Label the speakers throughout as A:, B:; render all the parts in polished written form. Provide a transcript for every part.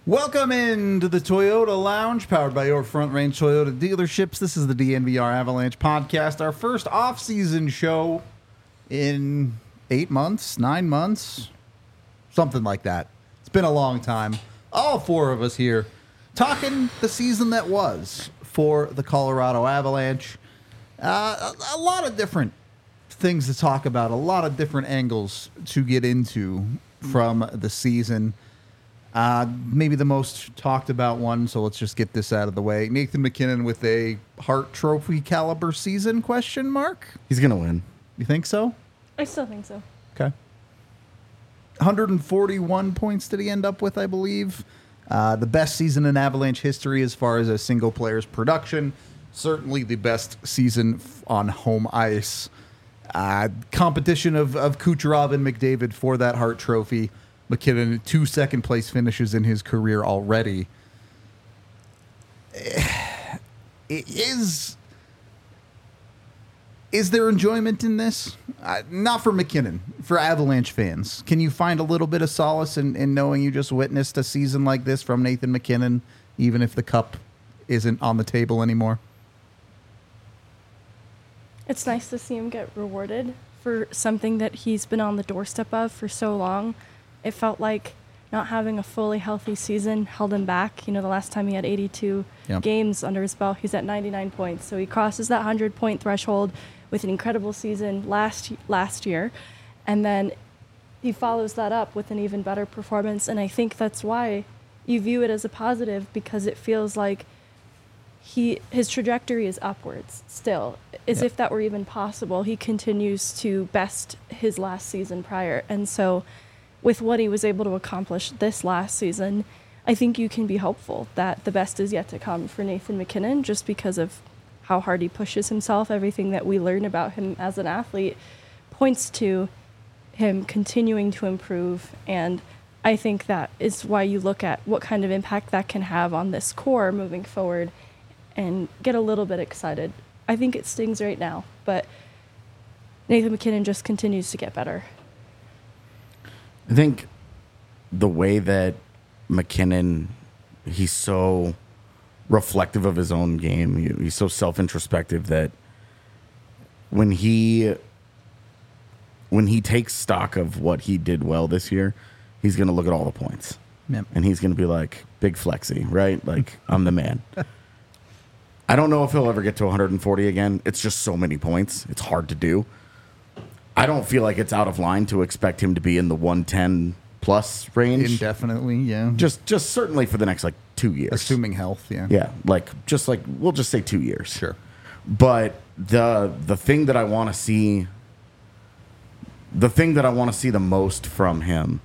A: Welcome into the Toyota Lounge, powered by your Front Range Toyota dealerships. This is the DNVR Avalanche podcast, our first off-season show in 8 months, 9 months, something like that. It's been a long time. All four of us here talking the season that was for the Colorado Avalanche. A lot of different things to talk about, a lot of different angles to get into from the season. Maybe the most talked about one, so let's just get this out of the way. Nathan MacKinnon with a Hart Trophy caliber season, question mark?
B: He's going to win.
A: You think so?
C: I still think so.
A: Okay. 141 points did he end up with, I believe. The best season in Avalanche history as far as a single player's production. Certainly the best season on home ice. Competition of Kucherov and McDavid for that Hart Trophy. MacKinnon, 2 second-place finishes in his career already. Is there enjoyment in this? Not for MacKinnon, for Avalanche fans. Can you find a little bit of solace in knowing you just witnessed a season like this from Nathan MacKinnon, even if the cup isn't on the table anymore?
C: It's nice to see him get rewarded for something that he's been on the doorstep of for so long. It felt like not having a fully healthy season held him back. You know, the last time he had 82 games under his belt, he's at 99 points. So he crosses that 100-point threshold with an incredible season last year. And then he follows that up with an even better performance. And I think that's why you view it as a positive, because it feels like his trajectory is upwards still, as if that were even possible. He continues to best his last season prior. And so with what he was able to accomplish this last season, I think you can be hopeful that the best is yet to come for Nathan MacKinnon, just because of how hard he pushes himself. Everything that we learn about him as an athlete points to him continuing to improve. And I think that is why you look at what kind of impact that can have on this core moving forward and get a little bit excited. I think it stings right now, but Nathan MacKinnon just continues to get better.
B: I think the way that MacKinnon, he's so reflective of his own game. He's so self-introspective that when he takes stock of what he did well this year, he's going to look at all the points.
A: Yep.
B: And he's going to be like, big flexy, right? Like, I'm the man. I don't know if he'll ever get to 140 again. It's just so many points. It's hard to do. I don't feel like it's out of line to expect him to be in the 110 plus range.
A: Indefinitely, yeah.
B: Just certainly for the next 2 years.
A: Assuming health, yeah.
B: Yeah, we'll just say 2 years.
A: Sure.
B: But the thing that I want to see, the most from him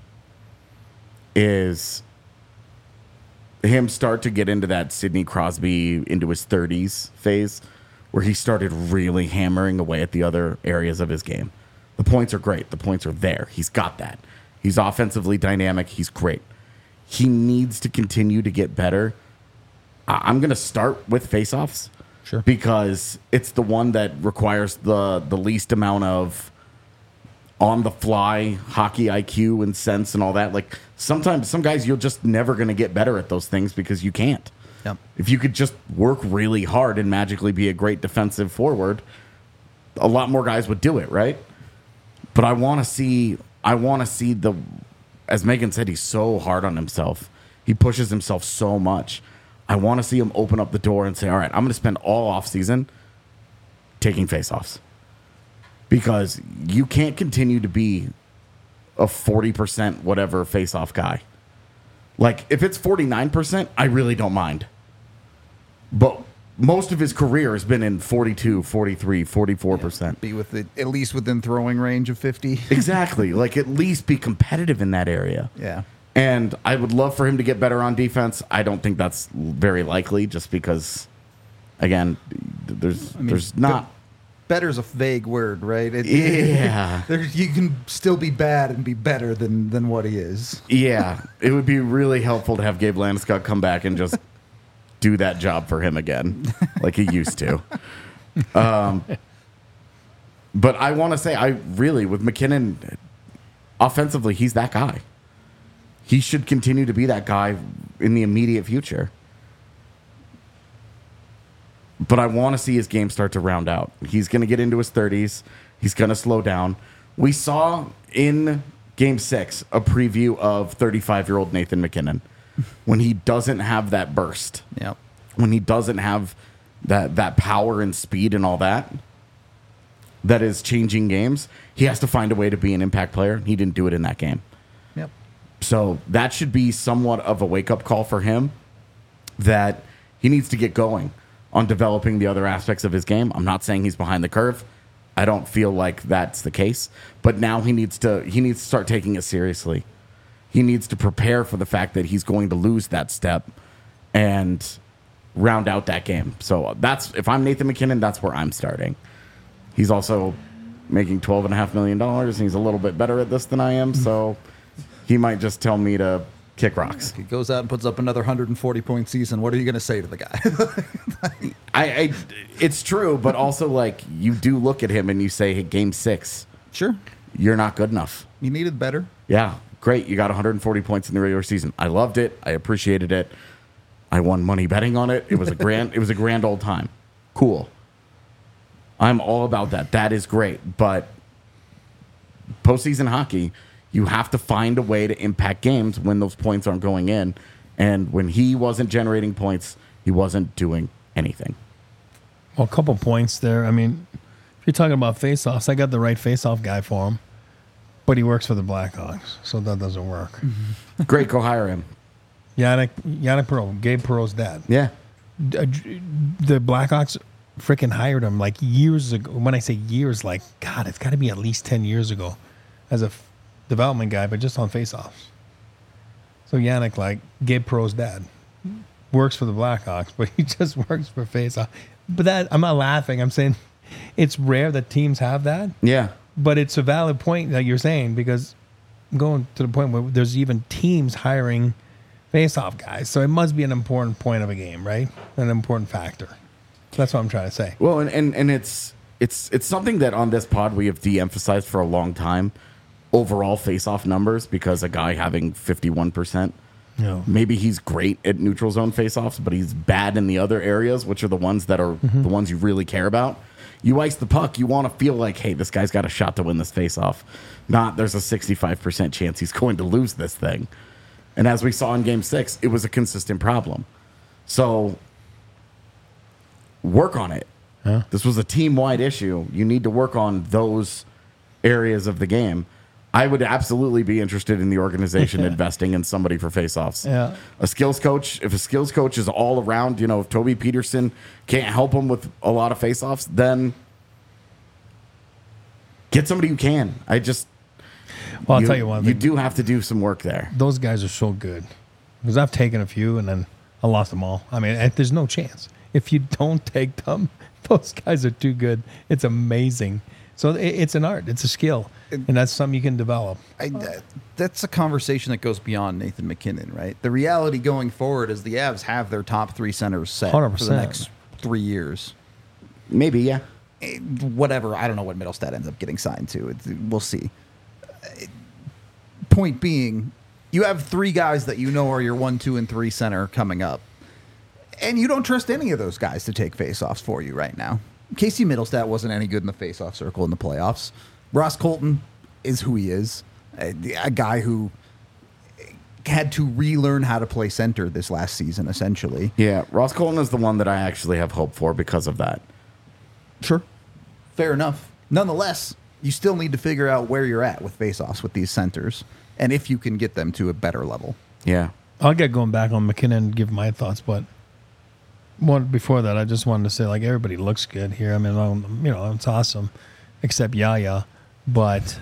B: is him start to get into that Sidney Crosby into his 30s phase, where he started really hammering away at the other areas of his game. The points are great. The points are there. He's got that. He's offensively dynamic. He's great. He needs to continue to get better. I'm going to start with faceoffs.
A: Sure.
B: Because it's the one that requires the least amount of on-the-fly hockey IQ and sense and all that. Like, sometimes some guys, you're just never going to get better at those things because you can't.
A: Yep.
B: If you could just work really hard and magically be a great defensive forward, a lot more guys would do it, right? But I want to see the, as Megan said, he's so hard on himself. He pushes himself so much. I want to see him open up the door and say, all right, I'm going to spend all offseason taking faceoffs. Because you can't continue to be a 40% whatever faceoff guy. Like, if it's 49%, I really don't mind. But most of his career has been in 42, 43, 44%.
A: Be at least within throwing range of 50.
B: Exactly. Like, at least be competitive in that area.
A: Yeah.
B: And I would love for him to get better on defense. I don't think that's very likely, just because, again, there's not.
A: Better's a vague word, right?
B: Yeah.
A: You can still be bad and be better than what he is.
B: Yeah. It would be really helpful to have Gabe Landeskog come back and just do that job for him again, like he used to. But I want to say, with MacKinnon, offensively, he's that guy. He should continue to be that guy in the immediate future. But I want to see his game start to round out. He's going to get into his 30s. He's going to slow down. We saw in Game 6 a preview of 35-year-old Nathan McKinnon when he doesn't have that burst.
A: Yep.
B: When he doesn't have that power and speed and all that is changing games, he has to find a way to be an impact player. He didn't do it in that game.
A: Yep.
B: So that should be somewhat of a wake-up call for him that he needs to get going on developing the other aspects of his game. I'm not saying he's behind the curve. I don't feel like that's the case. But now he needs to start taking it seriously. He needs to prepare for the fact that he's going to lose that step and round out that game. So if I'm Nathan McKinnon, that's where I'm starting. He's also making $12.5 million, and he's a little bit better at this than I am, so he might just tell me to kick rocks.
A: He goes out and puts up another 140-point season. What are you going to say to the guy?
B: It's true, but also, like, you do look at him and you say, hey, Game 6,
A: Sure.
B: you're not good enough.
A: You needed better.
B: Yeah, great. You got 140 points in the regular season. I loved it. I appreciated it. I won money betting on it. It was a grand old time. Cool. I'm all about that. That is great. But postseason hockey, you have to find a way to impact games when those points aren't going in. And when he wasn't generating points, he wasn't doing anything.
D: Well, a couple points there. I mean, if you're talking about face-offs, I got the right face-off guy for him, but he works for the Blackhawks, so that doesn't work.
B: Great, go hire him.
D: Yannick Perreault, Gabe Perreault's dad.
B: Yeah.
D: The Blackhawks freaking hired him like years ago. When I say years, like, God, it's got to be at least 10 years ago as a development guy, but just on face-offs. So Yannick, like Gabe Perreault's dad, works for the Blackhawks, but he just works for face-off. But that, I'm not laughing. I'm saying it's rare that teams have that.
B: Yeah.
D: But it's a valid point that you're saying, because I'm going to the point where there's even teams hiring face-off guys. So it must be an important point of a game, right? An important factor. That's what I'm trying to say.
B: Well, and it's something that on this pod we have de-emphasized for a long time. Overall face-off numbers, because a guy having 51%, maybe he's great at neutral zone face-offs, but he's bad in the other areas, which are the ones that are the ones you really care about. You ice the puck, you want to feel like, hey, this guy's got a shot to win this face-off. Not there's a 65% chance he's going to lose this thing. And as we saw in Game 6, it was a consistent problem. So work on it.
D: Yeah.
B: This was a team-wide issue. You need to work on those areas of the game. I would absolutely be interested in the organization investing in somebody for face-offs.
D: Yeah.
B: A skills coach, if a skills coach is all around, if Toby Peterson can't help him with a lot of face-offs, then get somebody who can.
D: Well, I'll tell you one
B: You
D: thing.
B: do have to do some work there.
D: Those guys are so good. Because I've taken a few and then I lost them all. I mean, there's no chance. If you don't take them, those guys are too good. It's amazing. So it's an art. It's a skill. And that's something you can develop.
A: That's a conversation that goes beyond Nathan McKinnon, right? The reality going forward is the Avs have their top three centers set
D: 100%.
A: for the next 3 years.
B: Maybe, yeah.
A: Whatever. I don't know what Middlestat ends up getting signed to. We'll see. Point being, you have three guys that you know are your 1, 2, and 3 center coming up. And you don't trust any of those guys to take faceoffs for you right now. Casey Middlestat wasn't any good in the faceoff circle in the playoffs. Ross Colton is who he is. A guy who had to relearn how to play center this last season, essentially.
B: Yeah, Ross Colton is the one that I actually have hope for because of that.
A: Sure. Fair enough. Nonetheless, you still need to figure out where you're at with faceoffs with these centers and if you can get them to a better level.
B: Yeah.
D: I'll get going back on McKinnon and give my thoughts, but before that, I just wanted to say, like, everybody looks good here. I mean, it's awesome, except Yaya. But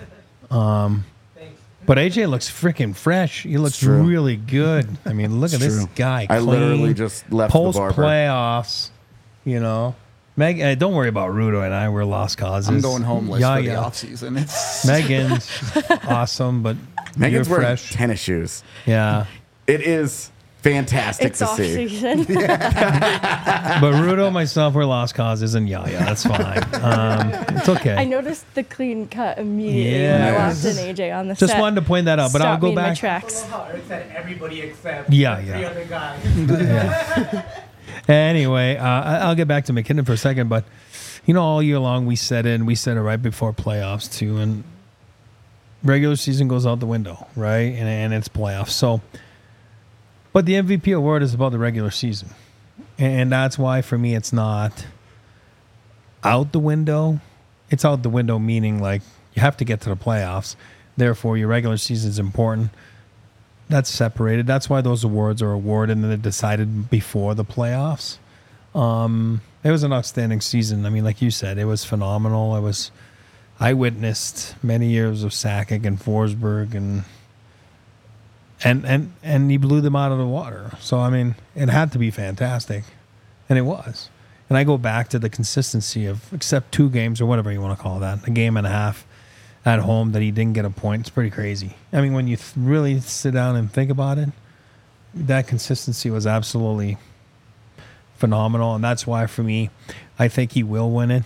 D: AJ looks freaking fresh. He looks really good. I mean, look at this guy.
B: I
D: clean,
B: literally just left the barber.
D: Post playoffs, Meg, don't worry about Rudo and I. We're lost causes.
A: I'm going homeless for the offseason.
D: Megan's awesome, but
B: Megan's
D: you're
B: wearing
D: fresh.
B: tennis shoes.
D: Yeah.
B: It is fantastic
C: It's
B: to
C: off
B: see.
C: season.
D: But Rudo, myself, were lost causes, and Yaya. That's fine. It's okay.
C: I noticed the clean cut immediately when I
D: Yes.
C: walked in AJ on the
D: Just
C: set.
D: wanted to point that out, but I'll
C: Stopped
D: go
C: me in my
D: back.
C: tracks.
E: how Eric said everybody except
D: Yeah,
E: the
D: yeah.
E: three other guys.
D: Anyway, I'll get back to McKinnon for a second, but all year long we said it, and we said it right before playoffs too, and regular season goes out the window, right? And it's playoffs. So, but the MVP award is about the regular season, and that's why for me it's not out the window. It's out the window, meaning like you have to get to the playoffs. Therefore, your regular season is important. That's separated. That's why those awards are awarded and they're decided before the playoffs. It was an outstanding season. I mean, like you said, it was phenomenal. I witnessed many years of Sakic and Forsberg, and he blew them out of the water. So I mean, it had to be fantastic, and it was. And I go back to the consistency of, except 2 games or whatever you want to call that, a game and a half at home that he didn't get a point. It's pretty crazy. I mean, when you really sit down and think about it, that consistency was absolutely phenomenal, and that's why for me, I think he will win it.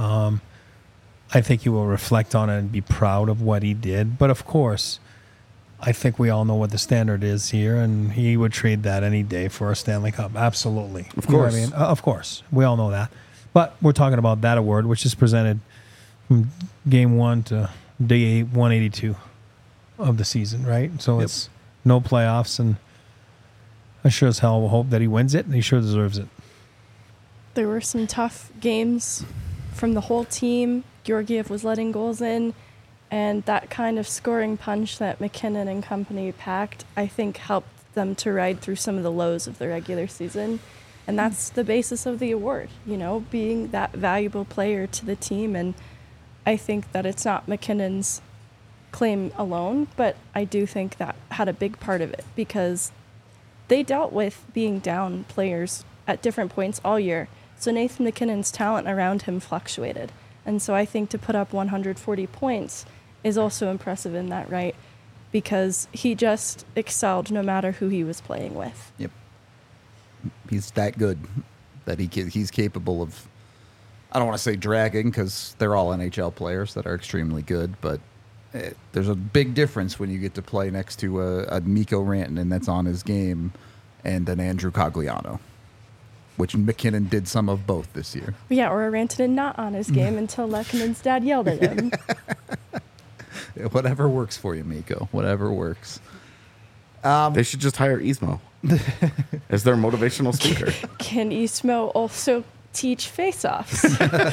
D: I think he will reflect on it and be proud of what he did. But of course, I think we all know what the standard is here, and he would trade that any day for a Stanley Cup. Absolutely.
B: Of
D: You know what
B: course.
D: I mean? Of course. We all know that. But we're talking about that award, which is presented from game 1 to day 182 of the season, right? So it's no playoffs, and I sure as hell will hope that he wins it, and he sure deserves it.
C: There were some tough games from the whole team. Georgiev was letting goals in, and that kind of scoring punch that McKinnon and company packed, I think, helped them to ride through some of the lows of the regular season. And that's the basis of the award, being that valuable player to the team. And I think that it's not McKinnon's claim alone, but I do think that had a big part of it because they dealt with being down players at different points all year. So Nathan McKinnon's talent around him fluctuated. And so I think to put up 140 points is also impressive in that right, because he just excelled no matter who he was playing with.
A: Yep. He's that good that he's capable of, I don't want to say dragging because they're all NHL players that are extremely good, but there's a big difference when you get to play next to a Mikko Rantanen that's on his game and an Andrew Cogliano, which McKinnon did some of both this year.
C: Yeah, or a Rantanen not on his game until Lekkonen's dad yelled at him.
A: Whatever works for you, Mikko. Whatever works.
B: They should just hire Ismo as their motivational speaker.
C: Can Ismo also teach face-offs?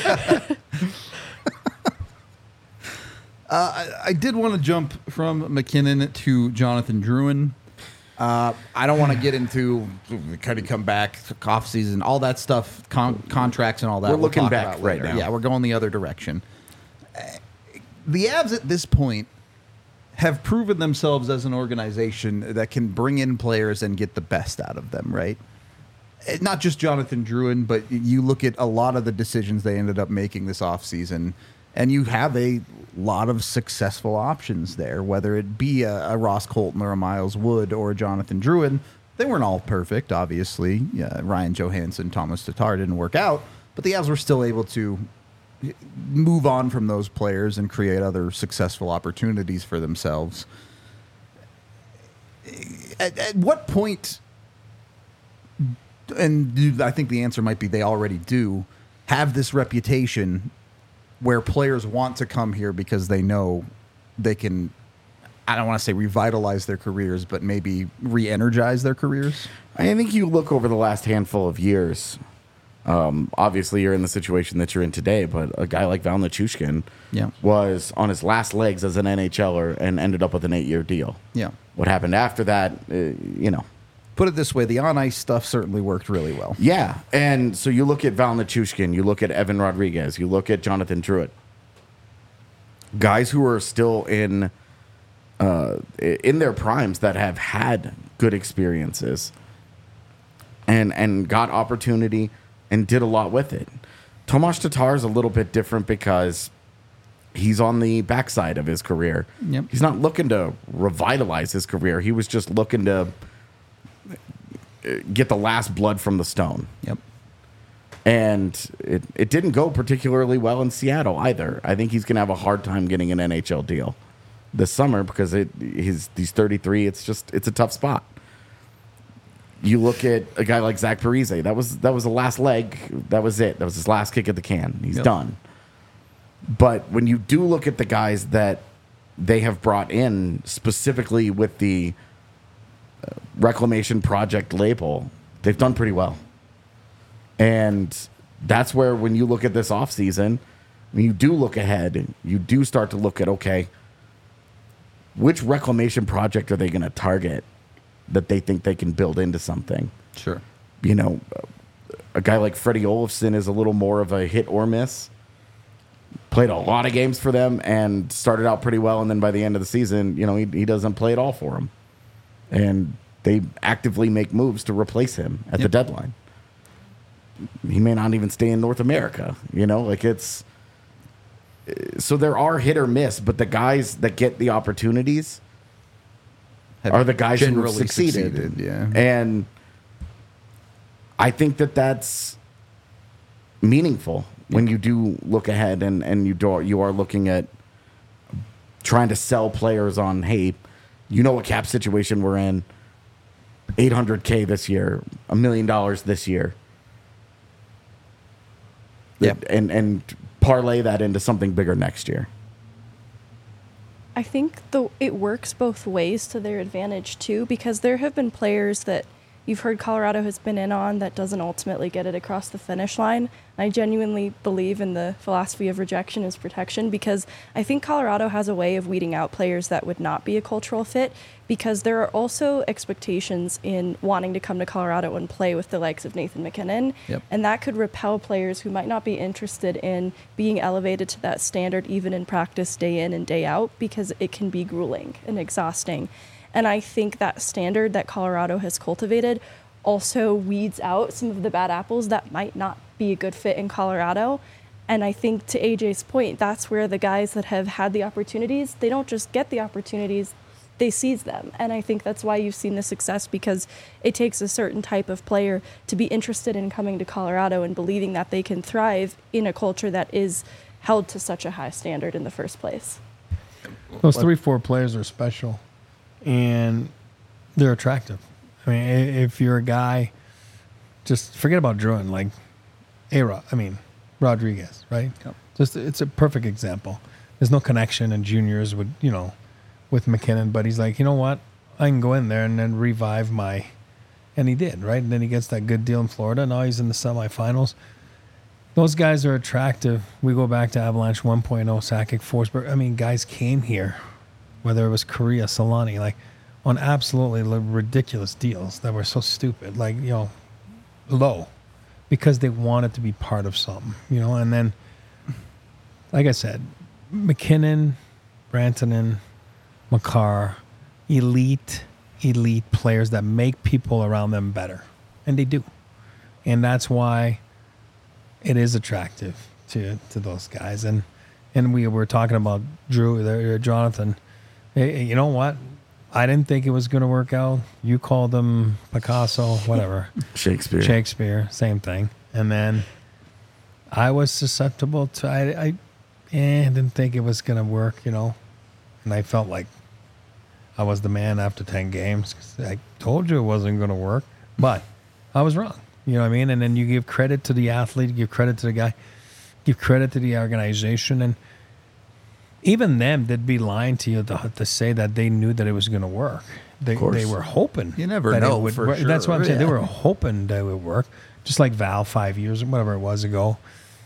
A: I did want to jump from McKinnon to Jonathan Drouin. I don't want to get into kind of come back off season, all that stuff, contracts and all that.
B: We're
A: we'll
B: looking
A: talk
B: back
A: about
B: right
A: later.
B: now.
A: Yeah, we're going the other direction. The Avs at this point have proven themselves as an organization that can bring in players and get the best out of them, right? Not just Jonathan Drouin, but you look at a lot of the decisions they ended up making this offseason, and you have a lot of successful options there, whether it be a Ross Colton or a Miles Wood or a Jonathan Drouin. They weren't all perfect, obviously. Yeah, Ryan Johansson, Thomas Tatar didn't work out, but the Avs were still able to move on from those players and create other successful opportunities for themselves. At what point, and I think the answer might be they already do, have this reputation where players want to come here because they know they can, I don't want to say revitalize their careers, but maybe re-energize their careers?
B: I think you look over the last handful of years. Obviously, you're in the situation that you're in today, but a guy like Val Nichushkin was on his last legs as an NHLer and ended up with an 8-year deal.
A: Yeah.
B: What happened after that,
A: Put it this way, the on-ice stuff certainly worked really well.
B: Yeah, and so you look at Val Nichushkin, you look at Evan Rodriguez, you look at Jonathan Drouin. Guys who are still in their primes that have had good experiences and got opportunity and did a lot with it. Tomas Tatar is a little bit different because he's on the backside of his career.
A: Yep.
B: He's not looking to revitalize his career. He was just looking to get the last blood from the stone.
A: Yep.
B: And it didn't go particularly well in Seattle either. I think he's going to have a hard time getting an NHL deal this summer because he's 33. It's a tough spot. You look at a guy like Zach Parise. That was the last leg. That was it. That was his last kick at the can. He's done. But when you do look at the guys that they have brought in specifically with the Reclamation Project label, they've done pretty well. And that's where, when you look at this offseason, when you do look ahead, you do start to look at, okay, which reclamation project are they going to target that they think they can build into something?
A: Sure.
B: You know, a guy like Freddie Olofsson is a little more of a hit or miss. Played a lot of games for them and started out pretty well, and then by the end of the season, you know, he doesn't play at all for them. And they actively make moves to replace him at the deadline. He may not even stay in North America, you know, like it's. So there are hit or miss, but the guys that get the opportunities are the guys who have
A: generally
B: succeeded.
A: Yeah.
B: And I think that's meaningful when you do look ahead and you are looking at trying to sell players on, hey, you know what cap situation we're in, $800K this year, $1 million this year.
A: Yep.
B: And parlay that into something bigger next year.
C: I think it works both ways to their advantage too, because there have been players that you've heard Colorado has been in on that doesn't ultimately get it across the finish line. I genuinely believe in the philosophy of rejection is protection, because I think Colorado has a way of weeding out players that would not be a cultural fit, because there are also expectations in wanting to come to Colorado and play with the likes of Nathan MacKinnon.
A: Yep.
C: And that could repel players who might not be interested in being elevated to that standard even in practice day in and day out, because it can be grueling and exhausting. And I think that standard that Colorado has cultivated also weeds out some of the bad apples that might not be a good fit in Colorado. And I think, to AJ's point, that's where the guys that have had the opportunities, they don't just get the opportunities, they seize them. And I think that's why you've seen the success, because it takes a certain type of player to be interested in coming to Colorado and believing that they can thrive in a culture that is held to such a high standard in the first place.
D: Those 3-4 players are special, and they're attractive. I mean, if you're a guy, just forget about Druin, like Rodriguez, right?
A: Yep.
D: It's a perfect example. There's no connection in juniors with MacKinnon, but he's like, you know what? I can go in there and then revive and he did, right? And then he gets that good deal in Florida. Now he's in the semifinals. Those guys are attractive. We go back to Avalanche 1.0, Sakic, Forsberg. I mean, guys came here, whether it was Korea, Solani, like on absolutely ridiculous deals that were so stupid, like, low, because they wanted to be part of something, and then, like I said, MacKinnon, Rantanen, Makar, elite players that make people around them better. And they do. And that's why it is attractive to those guys. And we were talking about Jonathan. Hey, you know what? I didn't think it was going to work out. You called him Picasso, whatever. Shakespeare, same thing. And then I was susceptible to, I didn't think it was going to work, And I felt like I was the man after 10 games. I told you it wasn't going to work, but I was wrong. You know what I mean? And then you give credit to the athlete, give credit to the guy, give credit to the organization. And even them, they'd be lying to you to say that they knew that it was going to work. They were hoping.
A: You never know for
D: work.
A: sure.
D: That's what I'm saying.
A: Yeah.
D: They were hoping that it would work. Just like Val 5 years, whatever it was ago.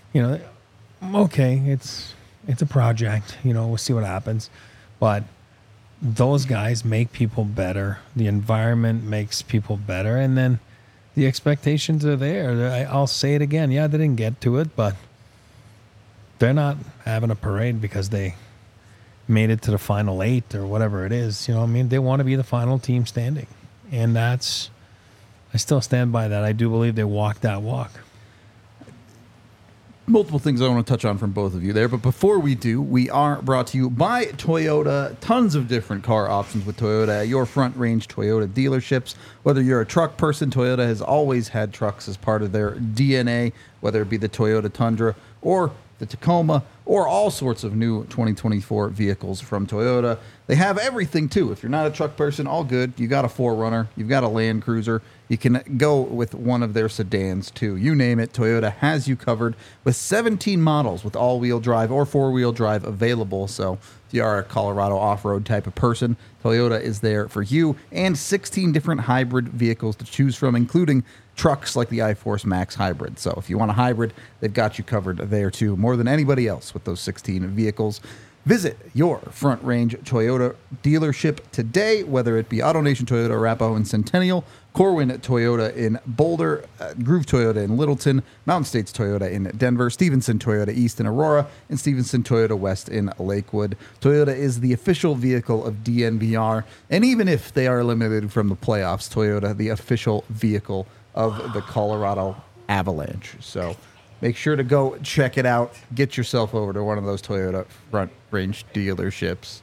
D: Okay, it's a project. We'll see what happens. But those guys make people better. The environment makes people better. And then the expectations are there. I'll say it again. Yeah, they didn't get to it, but they're not having a parade because they made it to the final 8 or whatever it is. You know what I mean? They want to be the final team standing. And I still stand by that. I do believe they walked that walk.
A: multiple things I want to touch on from both of you there. But before we do, we are brought to you by Toyota. Tons of different car options with Toyota at your Front Range Toyota dealerships. Whether you're a truck person, Toyota has always had trucks as part of their DNA, whether it be the Toyota Tundra or the Tacoma, or all sorts of new 2024 vehicles from Toyota. They have everything, too. If you're not a truck person, all good. You got a 4Runner. You've got a Land Cruiser. You can go with one of their sedans, too. You name it, Toyota has you covered with 17 models with all-wheel drive or four-wheel drive available. So if you are a Colorado off-road type of person, Toyota is there for you, and 16 different hybrid vehicles to choose from, including trucks like the iForce Max Hybrid. So if you want a hybrid, they've got you covered there too, more than anybody else with those 16 vehicles. Visit your Front Range Toyota dealership today, whether it be AutoNation Toyota, Arapahoe and Centennial, Corwin Toyota in Boulder, Groove Toyota in Littleton, Mountain States Toyota in Denver, Stevenson Toyota East in Aurora, and Stevenson Toyota West in Lakewood. Toyota is the official vehicle of DNVR, and even if they are eliminated from the playoffs, Toyota, the official vehicle of the Colorado Avalanche. So make sure to go check it out. Get yourself over to one of those Toyota Front Range dealerships.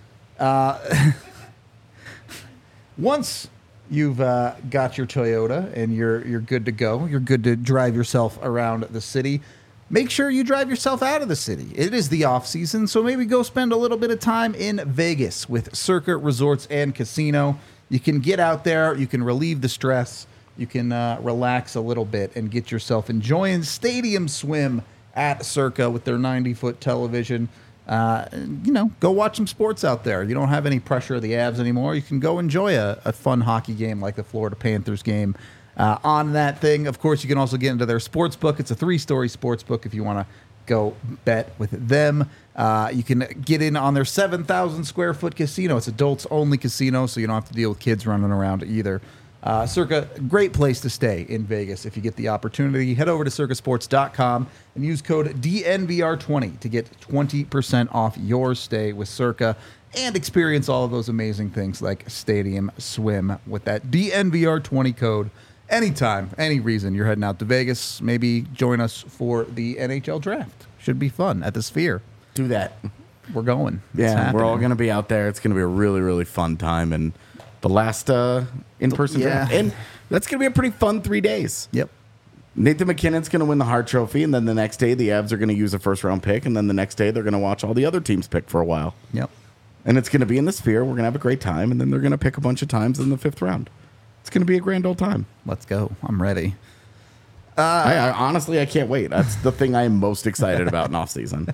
A: Once you've got your Toyota and you're good to go, you're good to drive yourself around the city, make sure you drive yourself out of the city. It is the off season, so maybe go spend a little bit of time in Vegas with Circa Resorts and Casino. You can get out there, you can relieve the stress, you can relax a little bit and get yourself enjoying Stadium Swim at Circa with their 90-foot television. Go watch some sports out there. You don't have any pressure of the Avs anymore. You can go enjoy a fun hockey game like the Florida Panthers game on that thing. Of course, you can also get into their sports book. It's a 3-story sports book if you want to go bet with them. You can get in on their 7,000 square foot casino. It's adults only casino, so you don't have to deal with kids running around either. Circa, great place to stay in Vegas if you get the opportunity. Head over to circasports.com and use code DNVR20 to get 20% off your stay with Circa and experience all of those amazing things like Stadium Swim with that DNVR20 code. Anytime, any reason you're heading out to Vegas, maybe join us for the NHL draft. Should be fun at the Sphere.
B: Do that.
A: We're going. It's
B: Yeah, we're all
A: happening.
B: going to be out there. It's going to be a really, really fun time. And the last in-person draft. And that's going to be a pretty fun 3 days.
A: Yep.
B: Nathan McKinnon's going to win the Hart Trophy, and then the next day the Avs are going to use a first-round pick, and then the next day they're going to watch all the other teams pick for a while.
A: Yep.
B: And it's going to be in the Sphere. We're going to have a great time, and then they're going to pick a bunch of times in the 5th round. It's going to be a grand old time.
A: Let's go. I'm ready.
B: I honestly, I can't wait. That's the thing I am most excited about in off-season.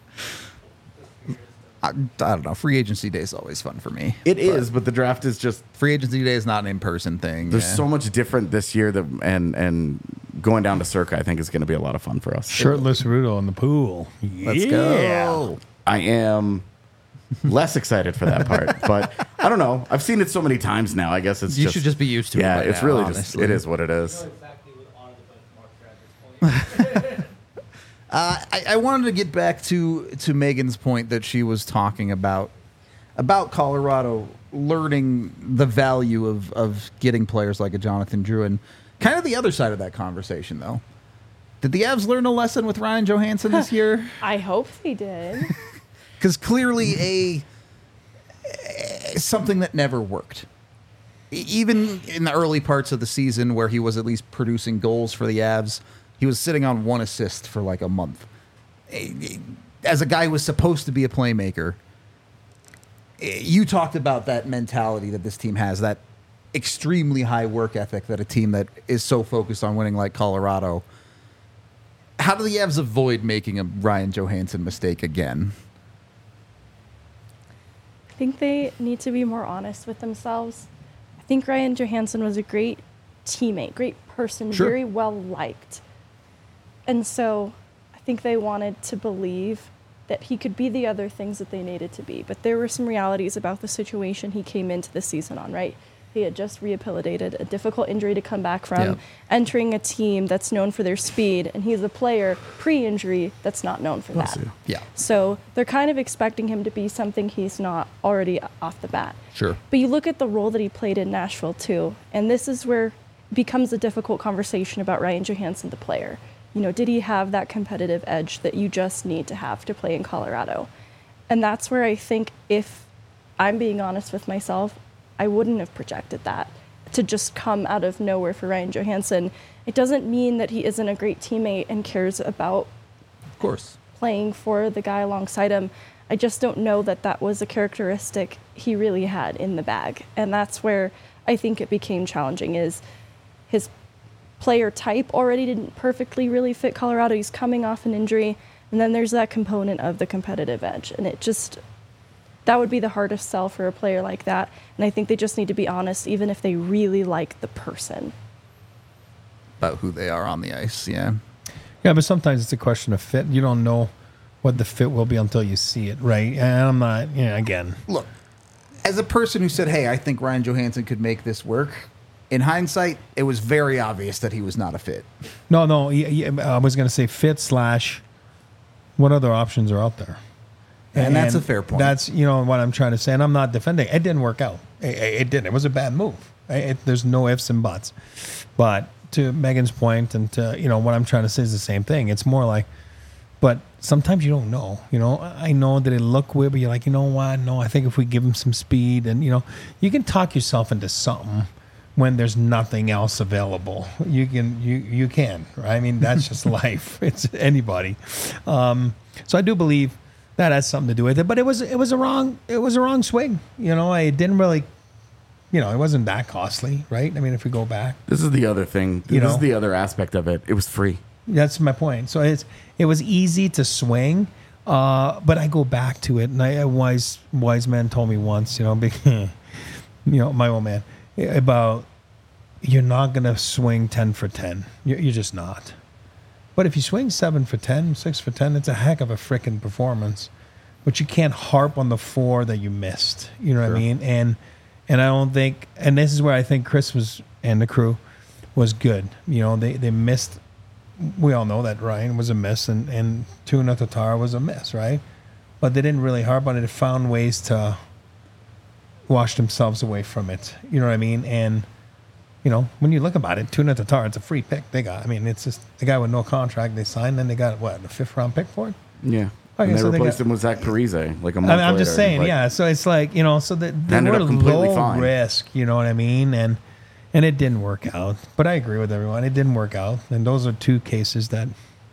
A: I don't know. Free agency day is always fun for me.
B: It is, but the draft is just...
A: Free agency day is not an in-person thing.
B: There's so much different this year, and going down to Circa, I think, is going to be a lot of fun for us.
D: Shirtless Rudo in the pool.
A: Let's go.
B: I am less excited for that part, but I don't know. I've seen it so many times now. I guess it's
A: You should just be used to it.
B: Yeah,
A: by
B: it's
A: now,
B: really
A: honestly.
B: just it is what it is.
E: know exactly what on the Mark Travis point.
A: I wanted to get back to Megan's point that she was talking about Colorado learning the value of getting players like a Jonathan Drouin. Kind of the other side of that conversation, though. Did the Avs learn a lesson with Ryan Johansson this year?
C: I hope they did.
A: Because clearly something that never worked. Even in the early parts of the season where he was at least producing goals for the Avs, he was sitting on 1 assist for like a month. As a guy who was supposed to be a playmaker, you talked about that mentality that this team has, that extremely high work ethic that a team that is so focused on winning like Colorado. How do the Avs avoid making a Ryan Johansson mistake again?
C: I think they need to be more honest with themselves. I think Ryan Johansson was a great teammate, great person,
A: Sure.
C: very well liked. And so I think they wanted to believe that he could be the other things that they needed to be. But there were some realities about the situation he came into the season on, right? He had just rehabilitated a difficult injury to come back from,
A: Yep.
C: entering a team that's known for their speed, and he's a player pre-injury that's not known for that.
A: Yeah.
C: So they're kind of expecting him to be something he's not already off the bat.
A: Sure.
C: But you look at the role that he played in Nashville too, and this is where it becomes a difficult conversation about Ryan Johansson, the player. did he have that competitive edge that you just need to have to play in Colorado? And that's where I think, if I'm being honest with myself, I wouldn't have projected that to just come out of nowhere for Ryan Johansson. It doesn't mean that he isn't a great teammate and cares about,
A: Of course.
C: playing for the guy alongside him. I just don't know that that was a characteristic he really had in the bag. And that's where I think it became challenging, is his player type already didn't perfectly really fit Colorado. He's coming off an injury. And then there's that component of the competitive edge. And that would be the hardest sell for a player like that. And I think they just need to be honest, even if they really like the person.
A: About who they are on the ice, yeah.
D: Yeah, but sometimes it's a question of fit. You don't know what the fit will be until you see it, right? And I'm not, again.
A: Look, as a person who said, hey, I think Ryan Johansson could make this work, in hindsight, it was very obvious that he was not a fit.
D: No, I was going to say fit / what other options are out there?
A: And that's a fair point.
D: That's, what I'm trying to say. And I'm not defending. It didn't work out. It didn't. It was a bad move. There's no ifs and buts. But to Megan's point, and to, what I'm trying to say is the same thing. It's more like, but sometimes you don't know. I know that it looked weird, but you're like, you know what? No, I think if we give him some speed, and, you can talk yourself into something when there's nothing else available. You can, right? I mean, that's just life. It's anybody. So I do believe that has something to do with it, but it was a wrong swing. I didn't really, it wasn't that costly, right? I mean, if we go back,
B: This is the other thing. This is the other aspect of it. It was free.
D: that's my point. So it was easy to swing, but I go back to it, and a wise man told me once, my old man, about, you're not going to swing 10 for 10. You're just not. But if you swing 7 for 10, 6 for 10, it's a heck of a freaking performance. But you can't harp on the 4 that you missed. You know what I mean? And I don't think, and this is where I think Chris and the crew was good. They missed. We all know that Ryan was a miss, and Tuna Tatar was a miss, right? But they didn't really harp on it. They found ways to wash themselves away from it. You know what I mean? And when you look about it, Tuna Tatar, it's a free pick they got. I mean, it's just the guy with no contract they signed, then they got, a 5th round pick for it?
B: Yeah.
D: Okay,
B: And they
D: so
B: replaced him with Zach Parise like a month
D: I'm just
B: later.
D: saying,
B: Like,
D: yeah. So it's like, so they
B: ended
D: were
B: up completely
D: low
B: fine.
D: risk, you know what I mean? And it didn't work out. But I agree with everyone. It didn't work out. And those are 2 cases that,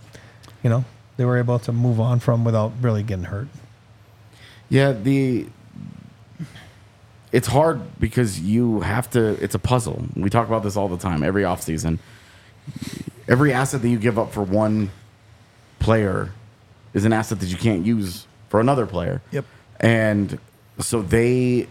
D: they were able to move on from without really getting hurt.
B: Yeah, it's hard because you have to, it's a puzzle. We talk about this all the time, every offseason. Every asset that you give up for one player is an asset that you can't use for another player.
A: Yep.
B: And so they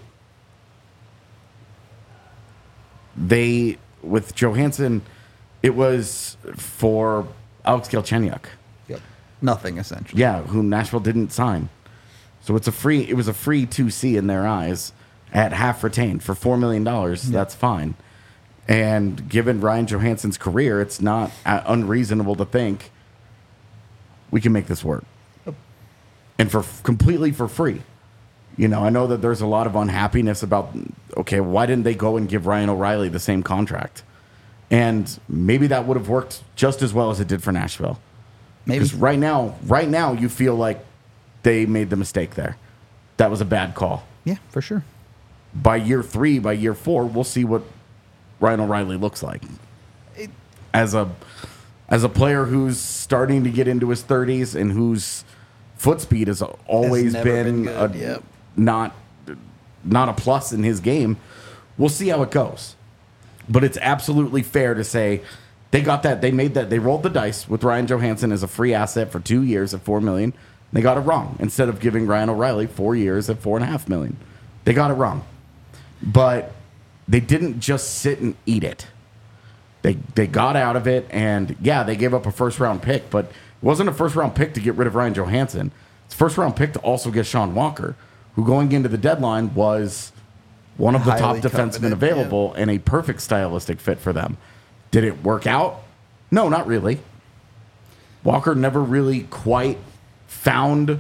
B: with Johansson, it was for Alex Galchenyuk.
A: Yep. Nothing, essentially.
B: Yeah, who Nashville didn't sign. So it was a free 2C in their eyes at half retained for $4 million. That's fine. And given Ryan Johansson's career, it's not unreasonable to think we can make this work. And completely for free. I know that there's a lot of unhappiness about, okay, why didn't they go and give Ryan O'Reilly the same contract? And maybe that would have worked just as well as it did for Nashville.
A: Maybe.
B: Because right now, you feel like they made the mistake there. That was a bad call.
A: Yeah, for sure.
B: By year 3, by year 4, we'll see what Ryan O'Reilly looks like. As a player who's starting to get into his 30s and whose foot speed has always
A: never
B: been
A: good. Yep.
B: not a plus in his game, we'll see how it goes. But it's absolutely fair to say they got that. They made that. They rolled the dice with Ryan Johansson as a free asset for 2 years at $4 million. They got it wrong. Instead of giving Ryan O'Reilly 4 years at $4.5 million, they got it wrong. But they didn't just sit and eat it. They got out of it, and yeah, they gave up a first-round pick, but it wasn't a first-round pick to get rid of Ryan Johansson. It's a first-round pick to also get Sean Walker, who going into the deadline was one of the top
A: Highly
B: defensemen
A: coveted,
B: available and a perfect stylistic fit for them. Did it work out? No, not really. Walker never really quite found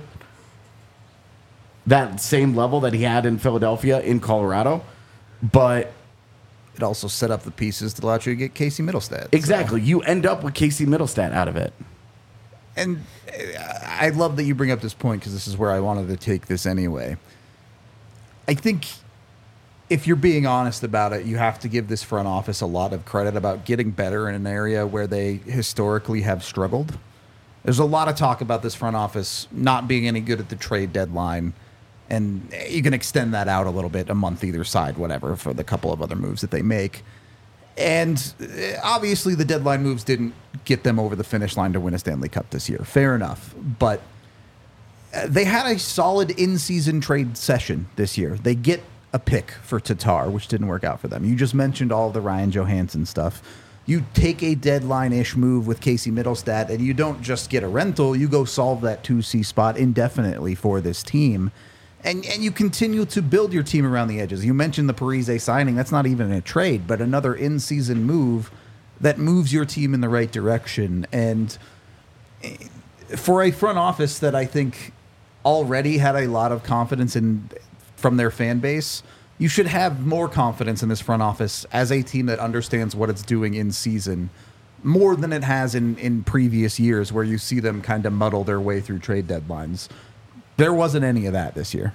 B: that same level that he had in Philadelphia in Colorado, but
A: it also set up the pieces to allow you to get Casey Middlestat.
B: Exactly. You end up with Casey Middlestat out of it.
A: And I love that you bring up this point because this is where I wanted to take this anyway. I think if you're being honest about it, you have to give this front office a lot of credit about getting better in an area where they historically have struggled. There's a lot of talk about this front office not being any good at the trade deadline. And you can extend that out a little bit, a month either side, whatever, for the couple of other moves that they make. And obviously the deadline moves didn't get them over the finish line to win a Stanley Cup this year. Fair enough. But they had a solid in-season trade session this year. They get a pick for Tatar, which didn't work out for them. You just mentioned all the Ryan Johansson stuff. You take a deadline-ish move with Casey Middlestat, and you don't just get a rental. You go solve that 2C spot indefinitely for this team. And you continue to build your team around the edges. You mentioned the Parise signing. That's not even a trade, but another in-season move that moves your team in the right direction. And for a front office that I think already had a lot of confidence in from their fan base, you should have more confidence in this front office as a team that understands what it's doing in season more than it has in previous years where you see them kind of muddle their way through trade deadlines. There wasn't any of that this year.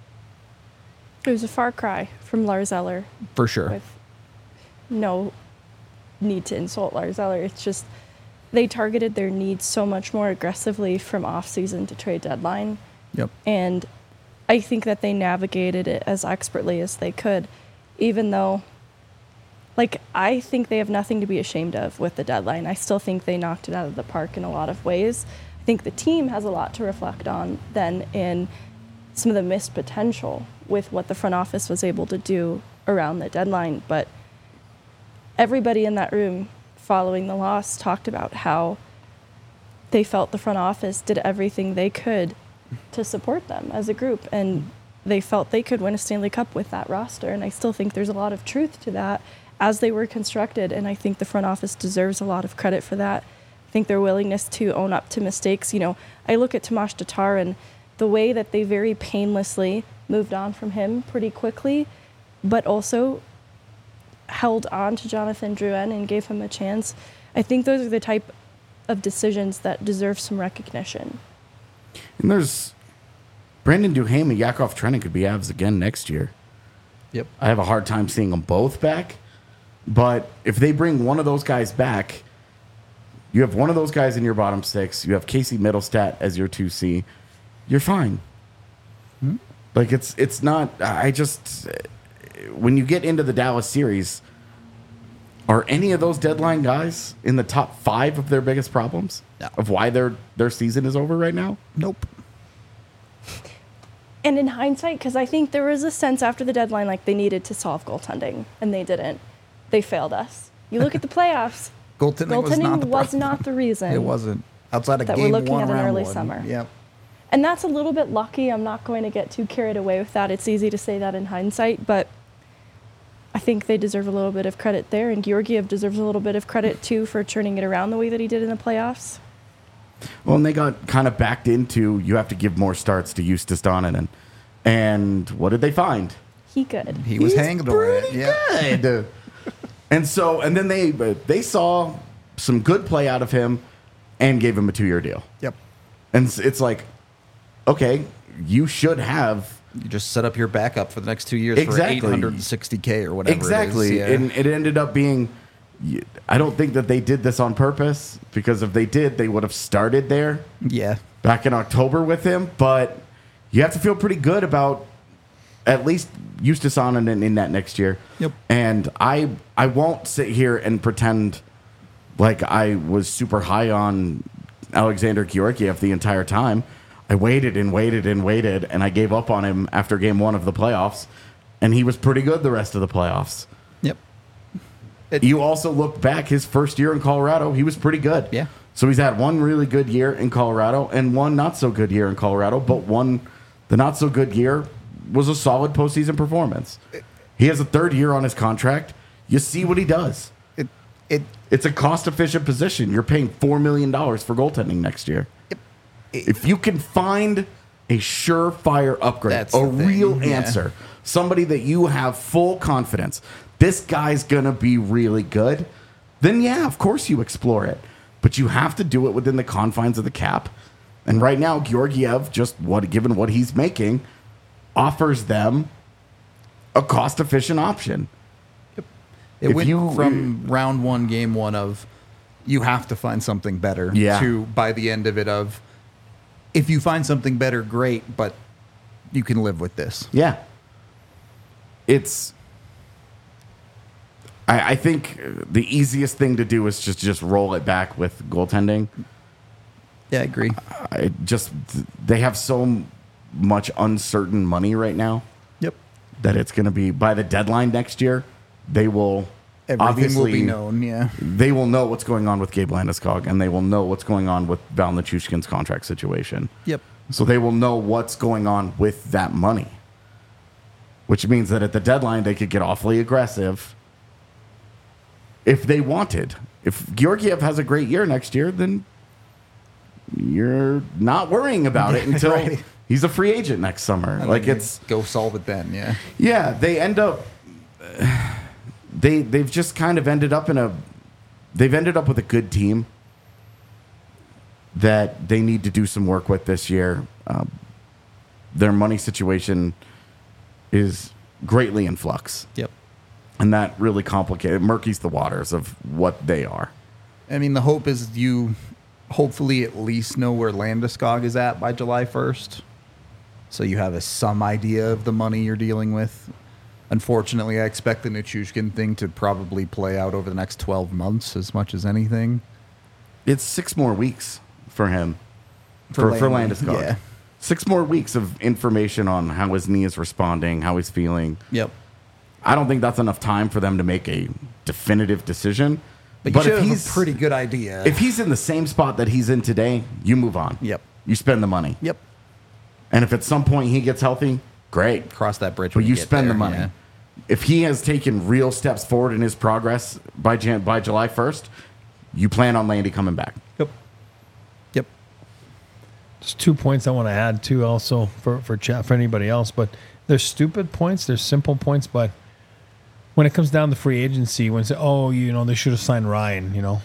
C: It was a far cry from Lars Eller.
A: For sure.
C: With no need to insult Lars Eller. It's just they targeted their needs so much more aggressively from off-season to trade deadline.
A: Yep.
C: And I think that they navigated it as expertly as they could, even though, like, I think they have nothing to be ashamed of with the deadline. I still think they knocked it out of the park in a lot of ways. I think the team has a lot to reflect on then in some of the missed potential with what the front office was able to do around the deadline. But everybody in that room following the loss talked about how they felt the front office did everything they could to support them as a group. And they felt they could win a Stanley Cup with that roster. And I still think there's a lot of truth to that as they were constructed. And I think the front office deserves a lot of credit for that. I think their willingness to own up to mistakes. You know, I look at Tomas Tatar and the way that they very painlessly moved on from him pretty quickly, but also held on to Jonathan Drouin and gave him a chance. I think those are the type of decisions that deserve some recognition.
B: And there's Brandon Duhaime and Yakov Trenin could be Avs again next year.
A: Yep.
B: I have a hard time seeing them both back, but if they bring one of those guys back, you have one of those guys in your bottom six. You have Casey Middlestat as your 2C. You're fine.
A: Hmm?
B: Like it's not. I just when you get into the Dallas series, are any of those deadline guys in the top 5 of their biggest problems
A: No.
B: of why their season is over right now?
A: Nope.
C: And in hindsight, because I think there was a sense after the deadline like they needed to solve goaltending, and they didn't. They failed us. You look at the playoffs.
A: Goaltending
C: was not the reason.
A: It wasn't. Outside of
C: that
A: game
C: we're looking
A: one,
C: at an
A: round
C: early
A: one.
C: summer.
A: Yep.
C: And that's a little bit lucky. I'm not going to get too carried away with that. It's easy to say that in hindsight, but I think they deserve a little bit of credit there. And Georgiev deserves a little bit of credit, too, for turning it around the way that he did in the playoffs.
B: Well, and they got kind of backed into you have to give more starts to Justus Donanen. And what did they find?
C: He good.
A: He was hanging
B: pretty
A: it. Yeah.
B: good. and then they saw some good play out of him and gave him a 2-year deal.
A: Yep.
B: And it's like, okay, you should have
A: You just set up your backup for the next 2 years
B: Exactly.
A: for $860K or whatever.
B: exactly.
A: It is. Yeah.
B: And it ended up being. I don't think that they did this on purpose, because if they did, they would have started there
A: Yeah.
B: back in October with him. But you have to feel pretty good about at least Justus Donanen in that next year.
A: Yep.
B: And I won't sit here and pretend like I was super high on Alexander Georgiev the entire time. I waited and waited and waited, and I gave up on him after game 1 of the playoffs, and he was pretty good the rest of the playoffs.
A: Yep.
B: You also look back, his first year in Colorado, he was pretty good.
A: Yeah.
B: So he's had one really good year in Colorado and one not so good year in Colorado, but the not so good year was a solid postseason performance. He has a 3rd year on his contract. You see what he does. It's a cost-efficient position. You're paying $4 million for goaltending next year. If you can find a surefire upgrade,
A: That's
B: a
A: the thing,
B: real
A: yeah.
B: answer, somebody that you have full confidence, this guy's going to be really good, then yeah, of course you explore it. But you have to do it within the confines of the cap. And right now, Georgiev, given what he's making, offers them a cost-efficient option.
A: It
B: If
A: went
B: you-
A: from round one, game one of you have to find something better
B: Yeah.
A: to by the end of it of if you find something better, great, but you can live with this.
B: Yeah. I think the easiest thing to do is just roll it back with goaltending.
A: Yeah, I agree.
B: They have so much uncertain money right now
A: Yep.
B: that it's going to be by the deadline next year. They will
A: Everything
B: obviously
A: will be known, yeah.
B: They will know what's going on with Gabe Landeskog, and they will know what's going on with Val Nichushkin's contract situation.
A: Yep.
B: So they will know what's going on with that money, which means that at the deadline they could get awfully aggressive if they wanted. If Georgiev has a great year next year, then you're not worrying about it until
A: Right.
B: he's a free agent next summer.
A: And
B: Like
A: then
B: it's
A: go solve it then, yeah.
B: yeah, they end up they've just kind of ended up with a good team that they need to do some work with this year. Their money situation is greatly in flux,
A: Yep.
B: and that really murkies the waters of what they are.
A: I mean, the hope is you hopefully at least know where Landeskog is at by July 1st. So you have some idea of the money you're dealing with. Unfortunately, I expect the Nichushkin thing to probably play out over the next 12 months as much as anything.
B: It's 6 more weeks for him,
A: For
B: for
A: Landy,
B: Landeskog.
A: yeah.
B: 6 more weeks of information on how his knee is responding, how he's feeling.
A: Yep.
B: I don't think that's enough time for them to make a definitive decision.
A: But you should
B: if
A: have
B: he's
A: a pretty good idea.
B: if he's in the same spot that he's in today, you move on.
A: Yep.
B: You spend the money.
A: Yep.
B: And if at some point he gets healthy, great.
A: Cross that bridge
B: But
A: when
B: you
A: get
B: spend
A: there,
B: the money.
A: yeah.
B: If he has taken real steps forward in his progress by July 1st, you plan on Landy coming back.
A: Yep. Yep.
D: There's 2 points I want to add too, also for chat for anybody else. But there's stupid points, there's simple points. But when it comes down to free agency, when say, oh, they should have signed Ryan.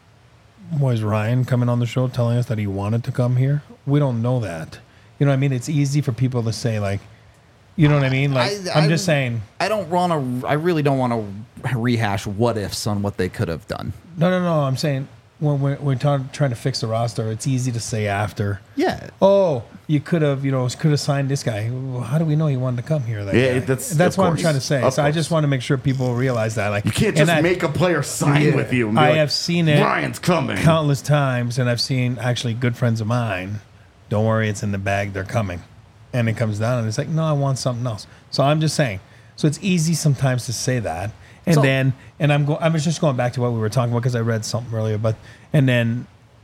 D: Was Ryan coming on the show telling us that he wanted to come here? We don't know that. You know what I mean? It's easy for people to say like, you know what I mean? Like I'm just saying.
A: I really don't want to rehash what ifs on what they could have done.
D: No. I'm saying when we're trying to fix the roster, it's easy to say after.
A: Yeah.
D: Oh, you could have, signed this guy. Well, how do we know he wanted to come here? That
B: Yeah,
D: guy?
B: that's
D: what I'm
B: course.
D: trying to say.
B: Of
D: So I
B: course.
D: just want to make sure people realize that. Like
B: You can't
D: and
B: just make a player sign with you. And be
D: I
B: like,
D: have seen it
B: Ryan's coming.
D: countless times, and I've seen actually good friends of mine. Don't worry, it's in the bag. They're coming, and it comes down, and it's like, no, I want something else. So I'm just saying. So it's easy sometimes to say that, and
A: So-
D: then, and I was just going back to what we were talking about because I read something earlier, and then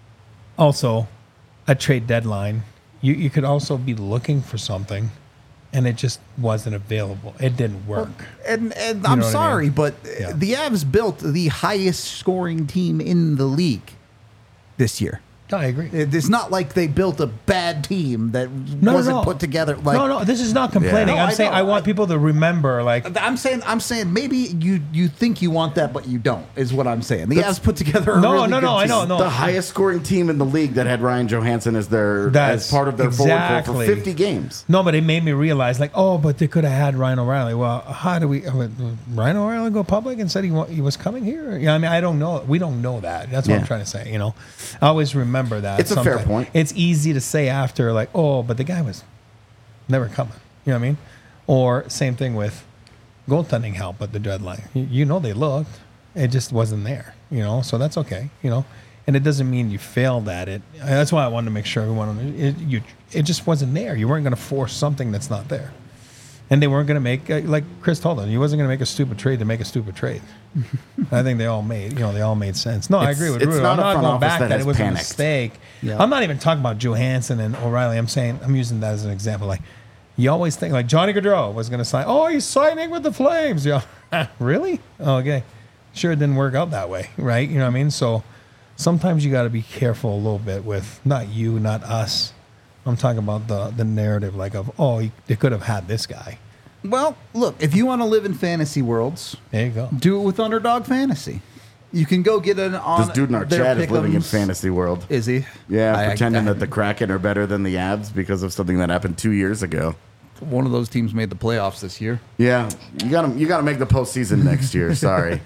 D: also a trade deadline. You could also be looking for something, and it just wasn't available. It didn't work.
A: And
D: know
A: I'm
D: what I mean?
A: sorry, but
D: Yeah.
A: the Avs built the highest scoring team in the league this year.
D: I agree.
A: It's not like they built a bad team that wasn't put together. Like,
D: no, this is not complaining.
A: No,
D: I'm
A: I
D: saying
A: know.
D: I want people to remember, like,
A: I'm saying maybe you think you want that, but you don't. Is what I'm saying. The Avs put together a
D: No,
A: really
D: no,
A: good
D: no, I
A: team.
D: know, no.
B: The highest scoring team in the league that had Ryan Johansson as
D: That's
B: as part of their forward core
D: exactly.
B: for 50 games.
D: no, but it made me realize, like, oh, but they could have had Ryan O'Reilly. Well, how do we? Ryan O'Reilly go public and said he was coming here? Yeah, I mean, I don't know. We don't know that. That's what I'm
B: Yeah.
D: trying to say. I always remember that.
B: It's a fair
D: sometimes.
B: point.
D: It's easy to say after, like, oh, but the guy was never coming. You know what I mean? Or same thing with goaltending help at the deadline. They looked. It just wasn't there. So that's okay. And it doesn't mean you failed at it. That's why I wanted to make sure everyone it just wasn't there. You weren't going to force something that's not there. And they weren't going to make, like Chris told them, he wasn't going to make a stupid trade to make a stupid trade. I think they all made sense. No, I agree with
B: It's
D: Rudo.
B: not
D: I'm
B: a
D: not
B: front
D: going
B: office
D: back
B: that
D: that
B: has
D: it was
B: panicked.
D: a mistake.
A: Yeah.
D: I'm not even talking about Johansson and O'Reilly. I'm using that as an example. Like, you always think, like, Johnny Gaudreau was going to sign. Oh, he's signing with the Flames. Really? Oh, okay. Sure, it didn't work out that way, right? You know what I mean? So sometimes you got to be careful a little bit with not you, not us. I'm talking about the narrative, like, of, oh, they could have had this guy.
A: Well, look, if you want to live in fantasy worlds,
D: There you go.
A: do it with Underdog Fantasy. You can go get an on.
B: This dude in our
A: their
B: chat is living in
A: pick'ems.
B: fantasy world.
A: Is he?
B: Yeah,
A: I-
B: pretending that the Kraken are better than the Avs because of something that happened 2 years ago.
A: One of those teams made the playoffs this year.
B: Yeah, you got to make the postseason next year. Sorry.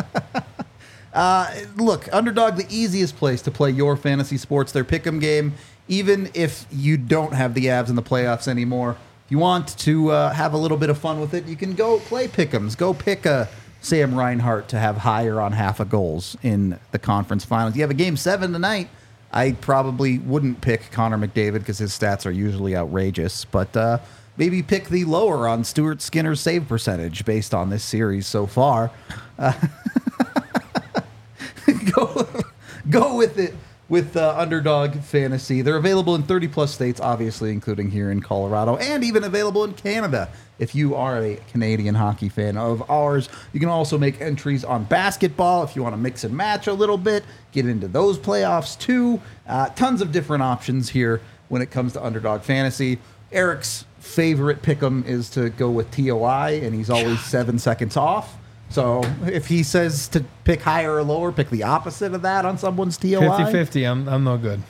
A: Look, Underdog, the easiest place to play your fantasy sports, their pick'em game. Even if you don't have the Avs in the playoffs anymore, if you want to have a little bit of fun with it, you can go play pick'ems. Go pick a Sam Reinhart to have higher on half a goals in the conference finals. You have a game 7 tonight. I probably wouldn't pick Connor McDavid because his stats are usually outrageous, but maybe pick the lower on Stuart Skinner's save percentage based on this series so far. Go with it with Underdog Fantasy. They're available in 30-plus states, obviously, including here in Colorado, and even available in Canada. If you are a Canadian hockey fan of ours, you can also make entries on basketball if you want to mix and match a little bit, get into those playoffs too. Tons of different options here when it comes to Underdog Fantasy. Eric's favorite pick'em is to go with TOI, and he's always 7 seconds off. So if he says to pick higher or lower, pick the opposite of that on someone's TOI.
D: 50-50. I'm no good.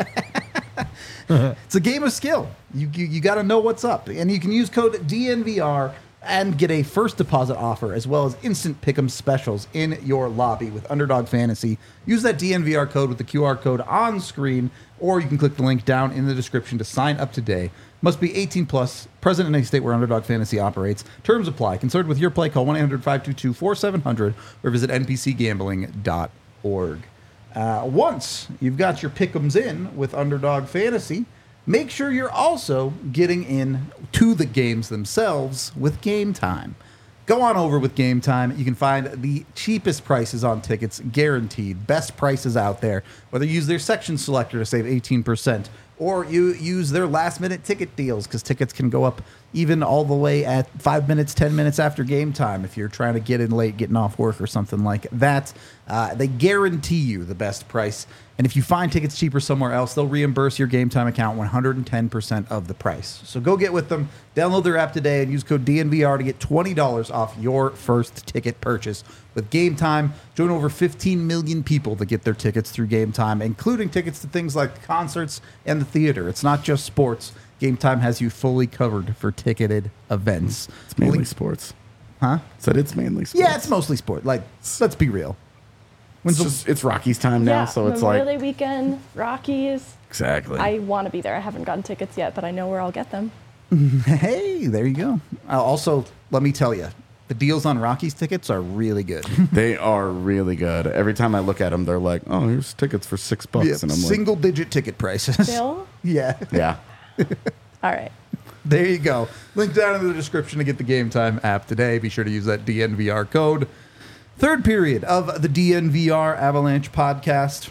A: It's a game of skill. You got to know what's up. And you can use code DNVR and get a first deposit offer as well as instant pick'em specials in your lobby with Underdog Fantasy. Use that DNVR code with the QR code on screen, or you can click the link down in the description to sign up today. Must be 18 plus, present in a state where Underdog Fantasy operates. Terms apply. Concerned with your play, call 1-800-522-4700 or visit npcgambling.org. Once you've got your pick'ems in with Underdog Fantasy, make sure you're also getting in to the games themselves with Game Time. Go on over with Game Time. You can find the cheapest prices on tickets, guaranteed. Best prices out there. Whether you use their section selector to save 18%, or you use their last-minute ticket deals, because tickets can go up even all the way at 5 minutes, 10 minutes after game time if you're trying to get in late, getting off work or something like that. They guarantee you the best price. And if you find tickets cheaper somewhere else, they'll reimburse your Game Time account 110% of the price. So go get with them. Download their app today and use code DNVR to get $20 off your first ticket purchase. With Game Time, join over 15 million people that get their tickets through Game Time, including tickets to things like concerts and the theater. It's not just sports. Game Time has you fully covered for ticketed events.
B: It's mainly sports.
A: Huh?
B: Said it's mainly sports.
A: Yeah, it's mostly sport. Like, let's be real.
B: It's Rockies time now,
C: Yeah,
B: so it's
C: Memorial
B: like
C: Day weekend, Rockies.
B: exactly.
C: I want to be there. I haven't gotten tickets yet, but I know where I'll get them.
A: Hey, there you go. Also, let me tell you, the deals on Rockies tickets are really good.
B: They are really good. Every time I look at them, they're like, "Oh, here's tickets for $6,"
A: Yeah,
B: and I'm like,
A: single-digit ticket prices.
C: Bill?
A: Yeah.
B: "Yeah."
C: All right.
A: There you go. Link down in the description to get the Game Time app today. Be sure to use that DNVR code. Third period of the DNVR Avalanche podcast.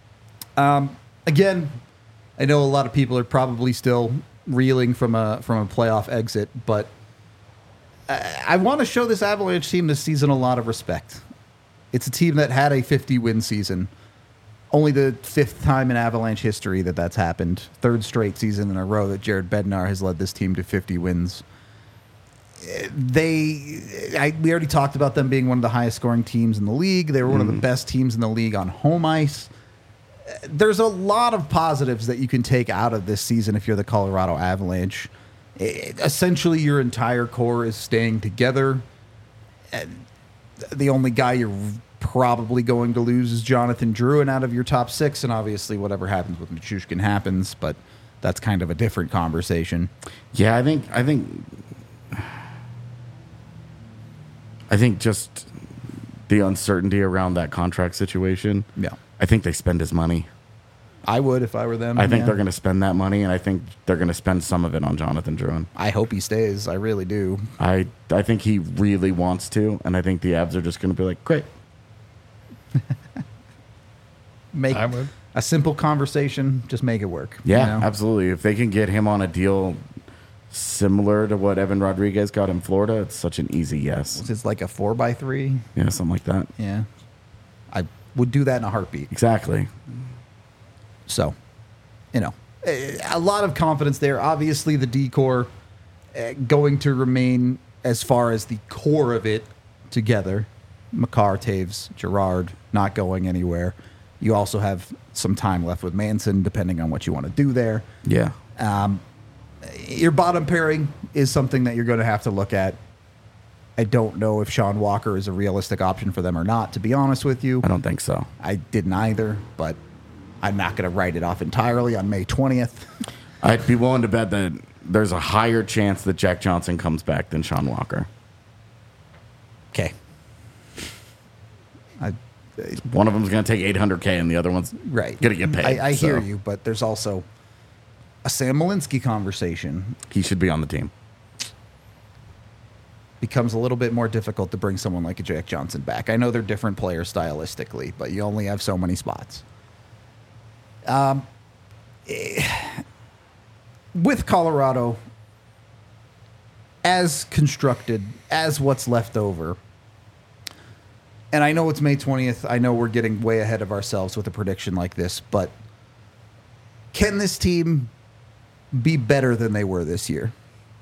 A: Again, I know a lot of people are probably still reeling from a playoff exit, but I want to show this Avalanche team this season a lot of respect. It's a team that had a 50-win season. Only the fifth time in Avalanche history that that's happened. Third straight season in a row that Jared Bednar has led this team to 50 wins. We already talked about them being one of the highest scoring teams in the league. They were one of the best teams in the league on home ice. There's a lot of positives that you can take out of this season if you're the Colorado Avalanche. Essentially, your entire core is staying together. The only guy you're probably going to lose is Jonathan Drouin out of your top six, and obviously whatever happens with Nichushkin happens, but that's kind of a different conversation.
B: Yeah, I think just the uncertainty around that contract situation.
A: Yeah.
B: I think they spend his money.
A: I would if I were them.
B: I think
A: yeah.
B: they're going to spend that money, and I think they're going to spend some of it on Jonathan Drouin.
A: I hope he stays. I really do.
B: I think he really wants to, and I think the Avs are just going to be like, great.
A: Make
D: I would.
A: a simple conversation, just make it work.
B: Yeah,
A: you know?
B: absolutely. If they can get him on a deal similar to what Evan Rodriguez got in Florida, it's such an easy yes.
A: It's like a 4x3.
B: Yeah, something like that.
A: Yeah. I would do that in a heartbeat.
B: Exactly.
A: So, a lot of confidence there. Obviously, the decor going to remain as far as the core of it together, Makar, Taves, Gerard not going anywhere. You also have some time left with Manson, depending on what you want to do there.
B: Yeah.
A: Your bottom pairing is something that you're going to have to look at. I don't know if Sean Walker is a realistic option for them or not, to be honest with you.
B: I don't think so.
A: I didn't either, but I'm not going to write it off entirely on May 20th.
B: I'd be willing to bet that there's a higher chance that Jack Johnson comes back than Sean Walker.
A: Okay.
B: One of them's going to take $800K and the other one's
A: Right.
B: going to get paid.
A: I
B: so
A: hear you, but there's also a Sam Malinsky conversation.
B: He should be on the team.
A: Becomes a little bit more difficult to bring someone like a Jack Johnson back. I know they're different players stylistically, but you only have so many spots. With Colorado, as constructed, as what's left over, and I know it's May 20th, I know we're getting way ahead of ourselves with a prediction like this, but can this team be better than they were this year?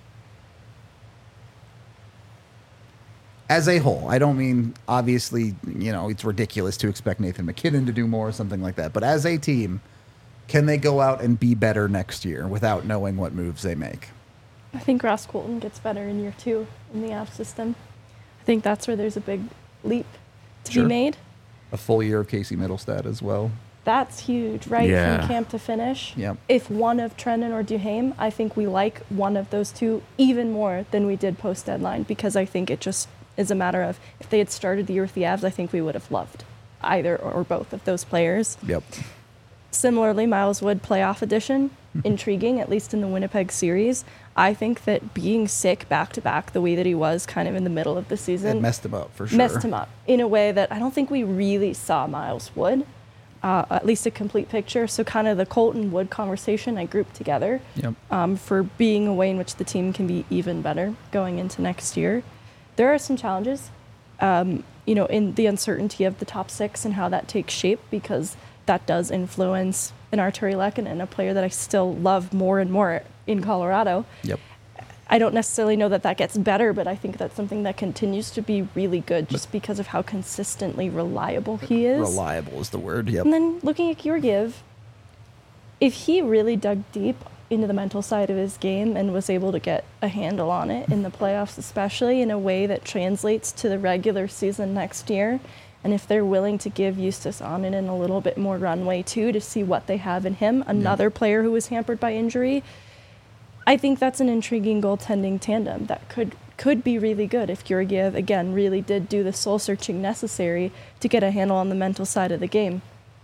A: As a whole, I don't mean, obviously, it's ridiculous to expect Nathan McKinnon to do more or something like that, but as a team, can they go out and be better next year without knowing what moves they make?
C: I think Ross Colton gets better in year 2 in the Avs system. I think that's where there's a big leap to
A: Sure.
C: be made.
A: A full year of Casey Middlestad as well.
C: That's huge, right?
B: Yeah.
C: From camp to finish.
A: Yep.
C: If one of Trennan or Duhaime, I think we like one of those two even more than we did post-deadline, because I think it just is a matter of, if they had started the year with the Avs, I think we would have loved either or both of those players.
A: Yep.
C: Similarly, Miles Wood playoff edition, intriguing, at least in the Winnipeg series. I think that being sick back-to-back the way that he was kind of in the middle of the season
A: It messed him up for sure.
C: messed him up in a way that I don't think we really saw Miles Wood, at least a complete picture. So kind of the Colton Wood conversation I grouped together
A: Yep.
C: for being a way in which the team can be even better going into next year. There are some challenges, in the uncertainty of the top 6 and how that takes shape, because that does influence an Arturi Lehkonen, a player that I still love more and more in Colorado.
A: Yep.
C: I don't necessarily know that gets better, but I think that's something that continues to be really good just because of how consistently reliable he is.
A: Reliable is the word. Yep.
C: And then looking at Georgiev, if he really dug deep into the mental side of his game and was able to get a handle on it in the playoffs, especially in a way that translates to the regular season next year, and if they're willing to give Justus Oninen a little bit more runway too to see what they have in him, another player who was hampered by injury, I think that's an intriguing goaltending tandem that could be really good if Georgiev, again, really did do the soul-searching necessary to get a handle on the mental side of the game.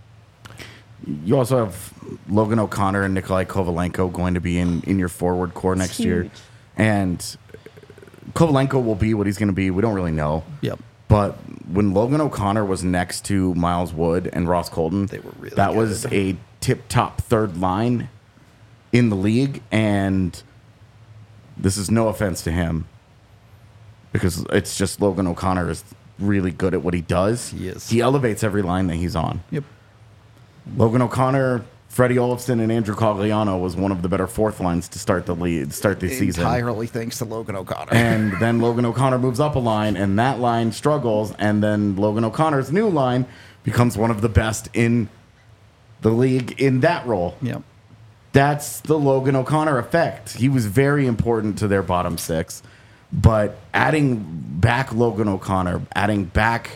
B: You also have Logan O'Connor and Nikolai Kovalenko going to be in your forward core next year.
C: Huge.
B: And Kovalenko will be what he's going to be. We don't really know.
A: Yep.
B: But when Logan O'Connor was next to Miles Wood and Ross Colton,
A: They were really
B: that
A: good.
B: was a tip-top third line in the league. And this is no offense to him, because it's just Logan O'Connor is really good at what he does.
A: He is.
B: He elevates every line that he's on.
A: Yep.
B: Logan O'Connor, Freddie Olofsson, and Andrew Cogliano was one of the better fourth lines to start the season.
A: Entirely thanks to Logan O'Connor.
B: And then Logan O'Connor moves up a line, and that line struggles. And then Logan O'Connor's new line becomes one of the best in the league in that role.
A: Yep.
B: That's the Logan O'Connor effect. He was very important to their bottom 6. But adding back Logan O'Connor, adding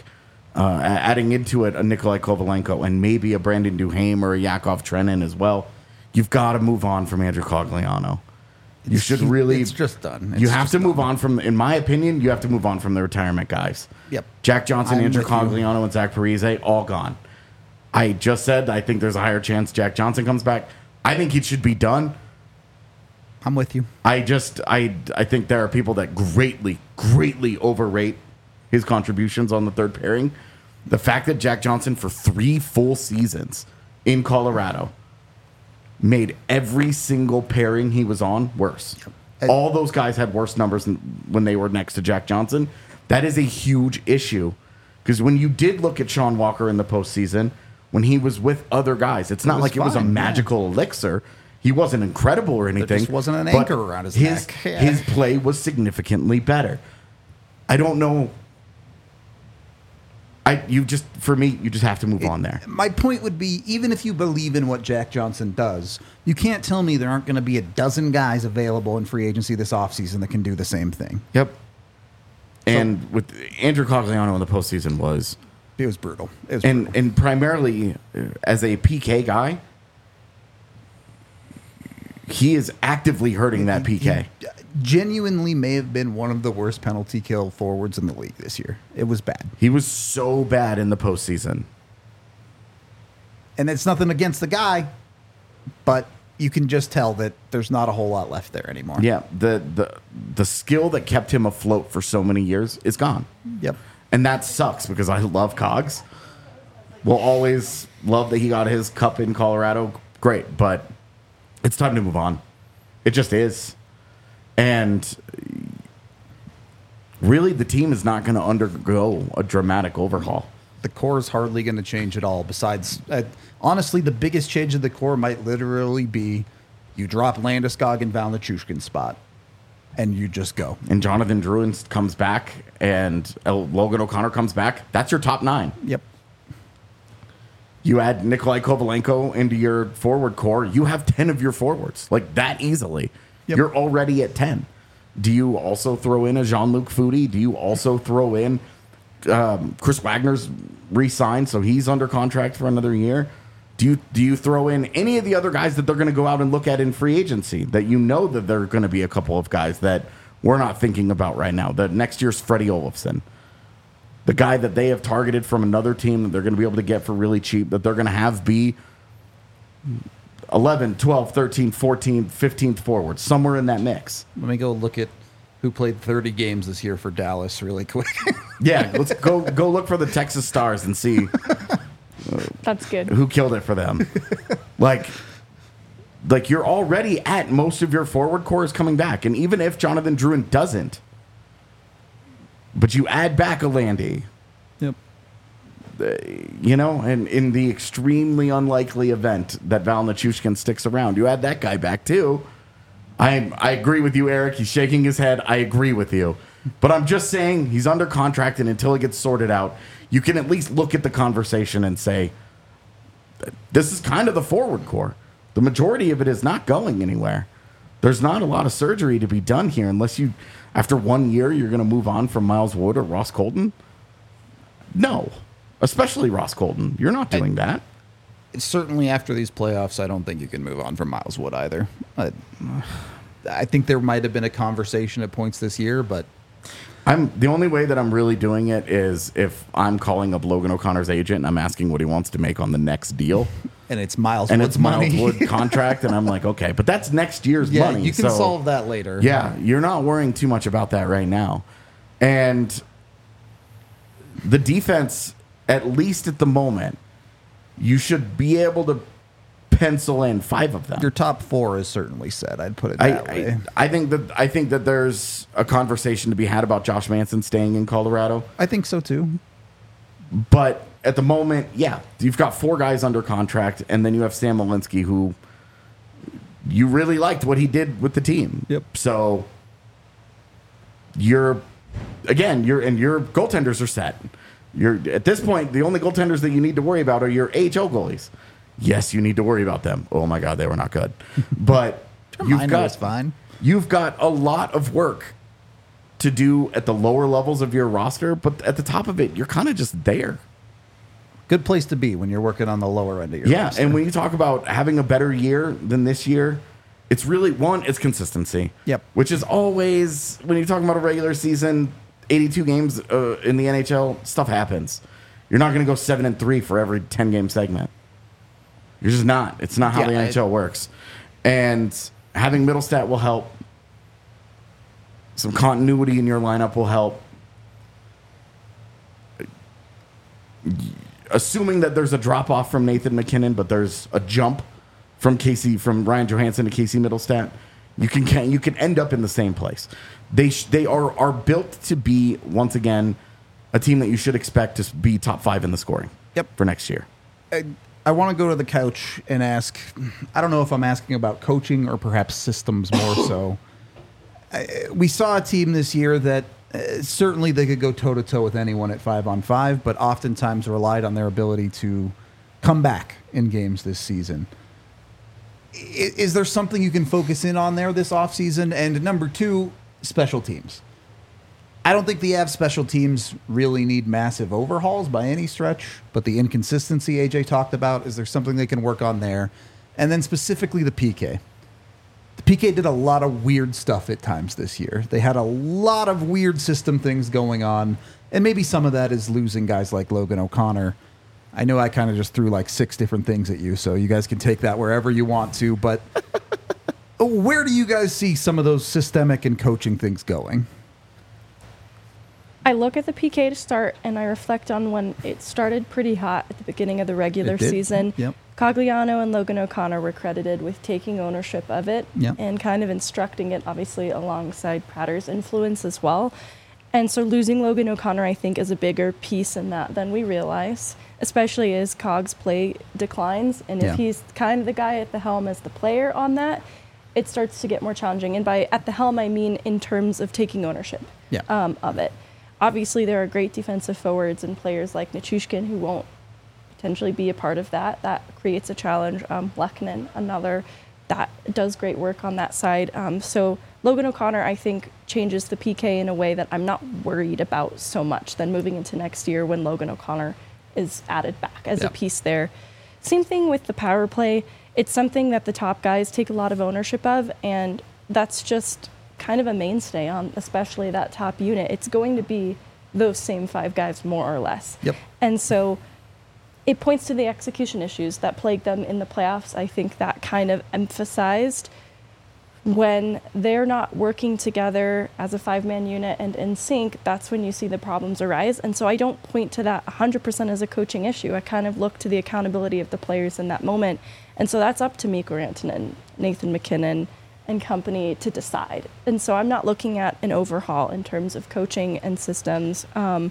B: into it a Nikolai Kovalenko and maybe a Brandon Duhaime or a Yakov Trenin as well, you've got to move on from Andrew Cogliano. You should really.
A: It's just done.
B: You
A: It's
B: have
A: just
B: to move
A: done.
B: on from, in my opinion, you have to move on from the retirement guys.
A: Yep.
B: Jack Johnson,
A: I'm
B: Andrew
A: with you.
B: Cogliano, and Zach Parise, all gone. I just said I think there's a higher chance Jack Johnson comes back. I think he should be done.
A: I'm with you.
B: I think there are people that greatly overrate his contributions on the third pairing. The fact that Jack Johnson for 3 full seasons in Colorado made every single pairing he was on worse.
A: Yep.
B: All those guys had worse numbers when they were next to Jack Johnson. That is a huge issue, because when you did look at Sean Walker in the postseason, when he was with other guys, it's not
A: was
B: like it was a
A: fine, yeah.
B: magical elixir. He wasn't incredible or anything.
A: just wasn't an
B: but
A: anchor around his neck. Yeah.
B: His play was significantly better. I don't know. You just have to move on there.
A: My point would be, even if you believe in what Jack Johnson does, you can't tell me there aren't going to be a dozen guys available in free agency this offseason that can do the same thing.
B: Yep. And with Andrew Cogliano in the postseason
A: It was brutal.
B: and primarily as a PK guy, he is actively hurting that PK.
A: He genuinely may have been one of the worst penalty kill forwards in the league this year. It was bad.
B: He was so bad in the postseason.
A: And it's nothing against the guy, but you can just tell that there's not a whole lot left there anymore.
B: Yeah, the skill that kept him afloat for so many years is gone.
A: Yep.
B: And that sucks because I love Cogs. We'll always love that he got his cup in Colorado. Great, but it's time to move on. It just is. And really, the team is not going to undergo a dramatic overhaul.
A: The core is hardly going to change at all. Besides, honestly, the biggest change of the core might literally be you drop Landeskog and Val Nichushkin's spot, and you just go.
B: And Jonathan Drouin comes back, and Logan O'Connor comes back. That's your top 9.
A: Yep.
B: You add Nikolai Kovalenko into your forward core, you have 10 of your forwards, like that easily.
A: Yep.
B: You're already at 10. Do you also throw in a Jean-Luc Foudy? Do you also throw in Chris Wagner's re-signed, so he's under contract for another year? Do you throw in any of the other guys that they're going to go out and look at in free agency that you know that there are going to be a couple of guys that we're not thinking about right now? The next year's Freddie Olofsson. The guy that they have targeted from another team that they're going to be able to get for really cheap, that they're going to have be 11, 12, 13, 14, 15th forward, somewhere in that mix.
A: Let me go look at who played 30 games this year for Dallas really quick.
B: Yeah, let's go look for the Texas Stars and see
C: That's good.
B: who killed it for them. like you're already at most of your forward core is coming back. And even if Jonathan Drouin doesn't, but you add back a Landy,
A: Yep.
B: And in the extremely unlikely event that Val Nichushkin sticks around, you add that guy back too. I agree with you, Eric. He's shaking his head. I agree with you. But I'm just saying he's under contract, and until it gets sorted out, you can at least look at the conversation and say, this is kind of the forward core. The majority of it is not going anywhere. There's not a lot of surgery to be done here unless you, after 1 year, you're going to move on from Miles Wood or Ross Colton. No, especially Ross Colton. You're not doing that.
A: Certainly after these playoffs, I don't think you can move on from Miles Wood either. I think there might have been a conversation at points this year, but
B: The only way that I'm really doing it is if I'm calling up Logan O'Connor's agent and I'm asking what he wants to make on the next deal.
A: and it's Miles
B: And
A: Wood's
B: it's Miles
A: money.
B: Wood contract, and I'm like, okay, but that's next year's
A: Yeah,
B: money.
A: you can
B: so-
A: solve that later.
B: Yeah, you're not worrying too much about that right now. And the defense, at least at the moment, you should be able to pencil in 5 of them.
A: Your top 4 is certainly set. I'd put it that way.
B: I think that there's a conversation to be had about Josh Manson staying in Colorado.
A: I think so too.
B: But at the moment, yeah, you've got 4 guys under contract, and then you have Sam Malinsky, who you really liked what he did with the team.
A: Yep.
B: So your goaltenders are set. You're at this point, the only goaltenders that you need to worry about are your AHL goalies. Yes, you need to worry about them. Oh my God, they were not good. But
A: Termino is fine.
B: You've got a lot of work to do at the lower levels of your roster, but at the top of it, you're kind of just there.
A: Good place to be when you're working on the lower end of your
B: Yeah,
A: roster.
B: and when you talk about having a better year than this year, it's really, it's consistency.
A: Yep.
B: Which is always, when you're talking about a regular season, 82 games in the NHL, stuff happens. You're not going to go 7-3 for every 10-game segment. You're just not. It's not how the NHL works. And having Middlestat will help. Some continuity in your lineup will help. Assuming that there's a drop off from Nathan McKinnon, but there's a jump from Ryan Johansson to Casey Middlestat, you can end up in the same place. They are built to be, once again, a team that you should expect to be top 5 in the scoring.
A: Yep.
B: For next year.
A: I want to go to the couch and ask, I don't know if I'm asking about coaching or perhaps systems more so. We saw a team this year that certainly they could go toe-to-toe with anyone at 5-on-5, but oftentimes relied on their ability to come back in games this season. Is there something you can focus in on there this offseason? And number two, special teams. I don't think the Avs special teams really need massive overhauls by any stretch, but the inconsistency AJ talked about, is there something they can work on there? And then specifically the PK. The PK did a lot of weird stuff at times this year. They had a lot of weird system things going on, and maybe some of that is losing guys like Logan O'Connor. I know I kind of just threw like 6 different things at you, so you guys can take that wherever you want to, but where do you guys see some of those systemic and coaching things going?
C: I look at the PK to start, and I reflect on when it started pretty hot at the beginning of the regular season.
A: Yep.
C: Cogliano and Logan O'Connor were credited with taking ownership of it
A: Yep.
C: and kind of instructing it, obviously, alongside Pratter's influence as well. And so losing Logan O'Connor, I think, is a bigger piece in that than we realize, especially as Cog's play declines. And
A: Yeah.
C: if he's kind of the guy at the helm as the player on that, it starts to get more challenging. And by at the helm, I mean in terms of taking ownership of it. Obviously, there are great defensive forwards and players like Nichushkin who won't potentially be a part of that. That creates a challenge. Lehkonen, another, that does great work on that side. So Logan O'Connor, I think, changes the PK in a way that I'm not worried about so much than moving into next year when Logan O'Connor is added back as a piece there. Same thing with the power play. It's something that the top guys take a lot of ownership of, and that's just kind of a mainstay on especially that top unit. It's going to be those same 5 guys more or less.
A: Yep.
C: And so it points to the execution issues that plagued them in the playoffs. I think that kind of emphasized when they're not working together as a 5-man unit and in sync, that's when you see the problems arise. And so I don't point to that 100% as a coaching issue. I kind of look to the accountability of the players in that moment. And so that's up to Mikko Rantanen, Nathan MacKinnon, and company to decide. And so I'm not looking at an overhaul in terms of coaching and systems.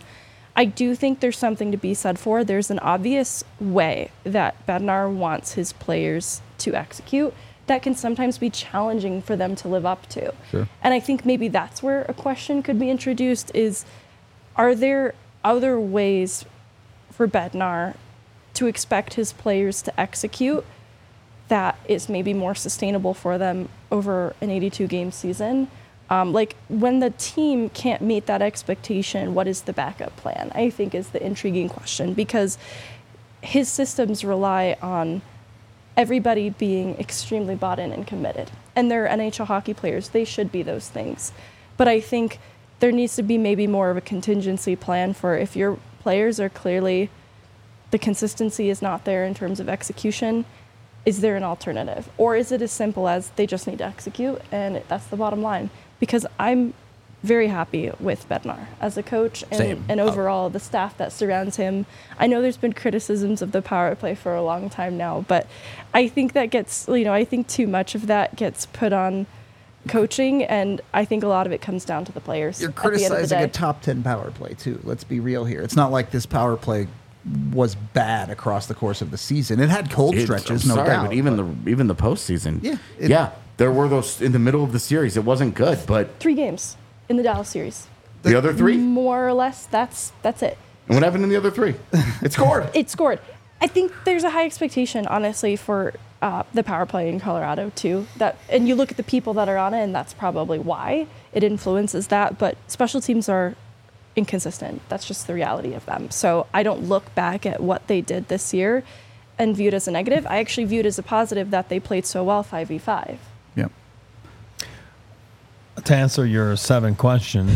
C: I do think there's something to be said for. There's an obvious way that Bednar wants his players to execute that can sometimes be challenging for them to live up to.
A: Sure.
C: And I think maybe that's where a question could be introduced is, are there other ways for Bednar to expect his players to execute that is maybe more sustainable for them over an 82-game season? Like when the team can't meet that expectation, what is the backup plan? I think is the intriguing question, because his systems rely on everybody being extremely bought in and committed. And they're NHL hockey players. They should be those things. But I think there needs to be maybe more of a contingency plan for if your players are clearly, the consistency is not there in terms of execution, is there an alternative? Or is it as simple as they just need to execute and that's the bottom line? Because I'm very happy with Bednar as a coach and overall the staff that surrounds him. I know there's been criticisms of the power play for a long time now, but I think that gets, I think too much of that gets put on coaching, and I think a lot of it comes down to the players.
A: You're
C: at the end of the
A: criticizing
C: day.
A: a top 10 power play, too. Let's be real here. It's not like this power play was bad across the course of the season. It had cold stretches, no doubt.
B: But even the postseason.
A: Yeah.
B: There were those in the middle of the series. It wasn't good, but
C: 3 games in the Dallas series.
B: the other 3?
C: More or less, that's it.
B: And what happened in the other 3? It scored.
C: It scored. I think there's a high expectation, honestly, for the power play in Colorado, too. And you look at the people that are on it, and that's probably why it influences that. But special teams are inconsistent. That's just the reality of them. So I don't look back at what they did this year and view it as a negative. I actually view it as a positive that they played so well 5v5.
A: Yep.
D: To answer your 7 questions.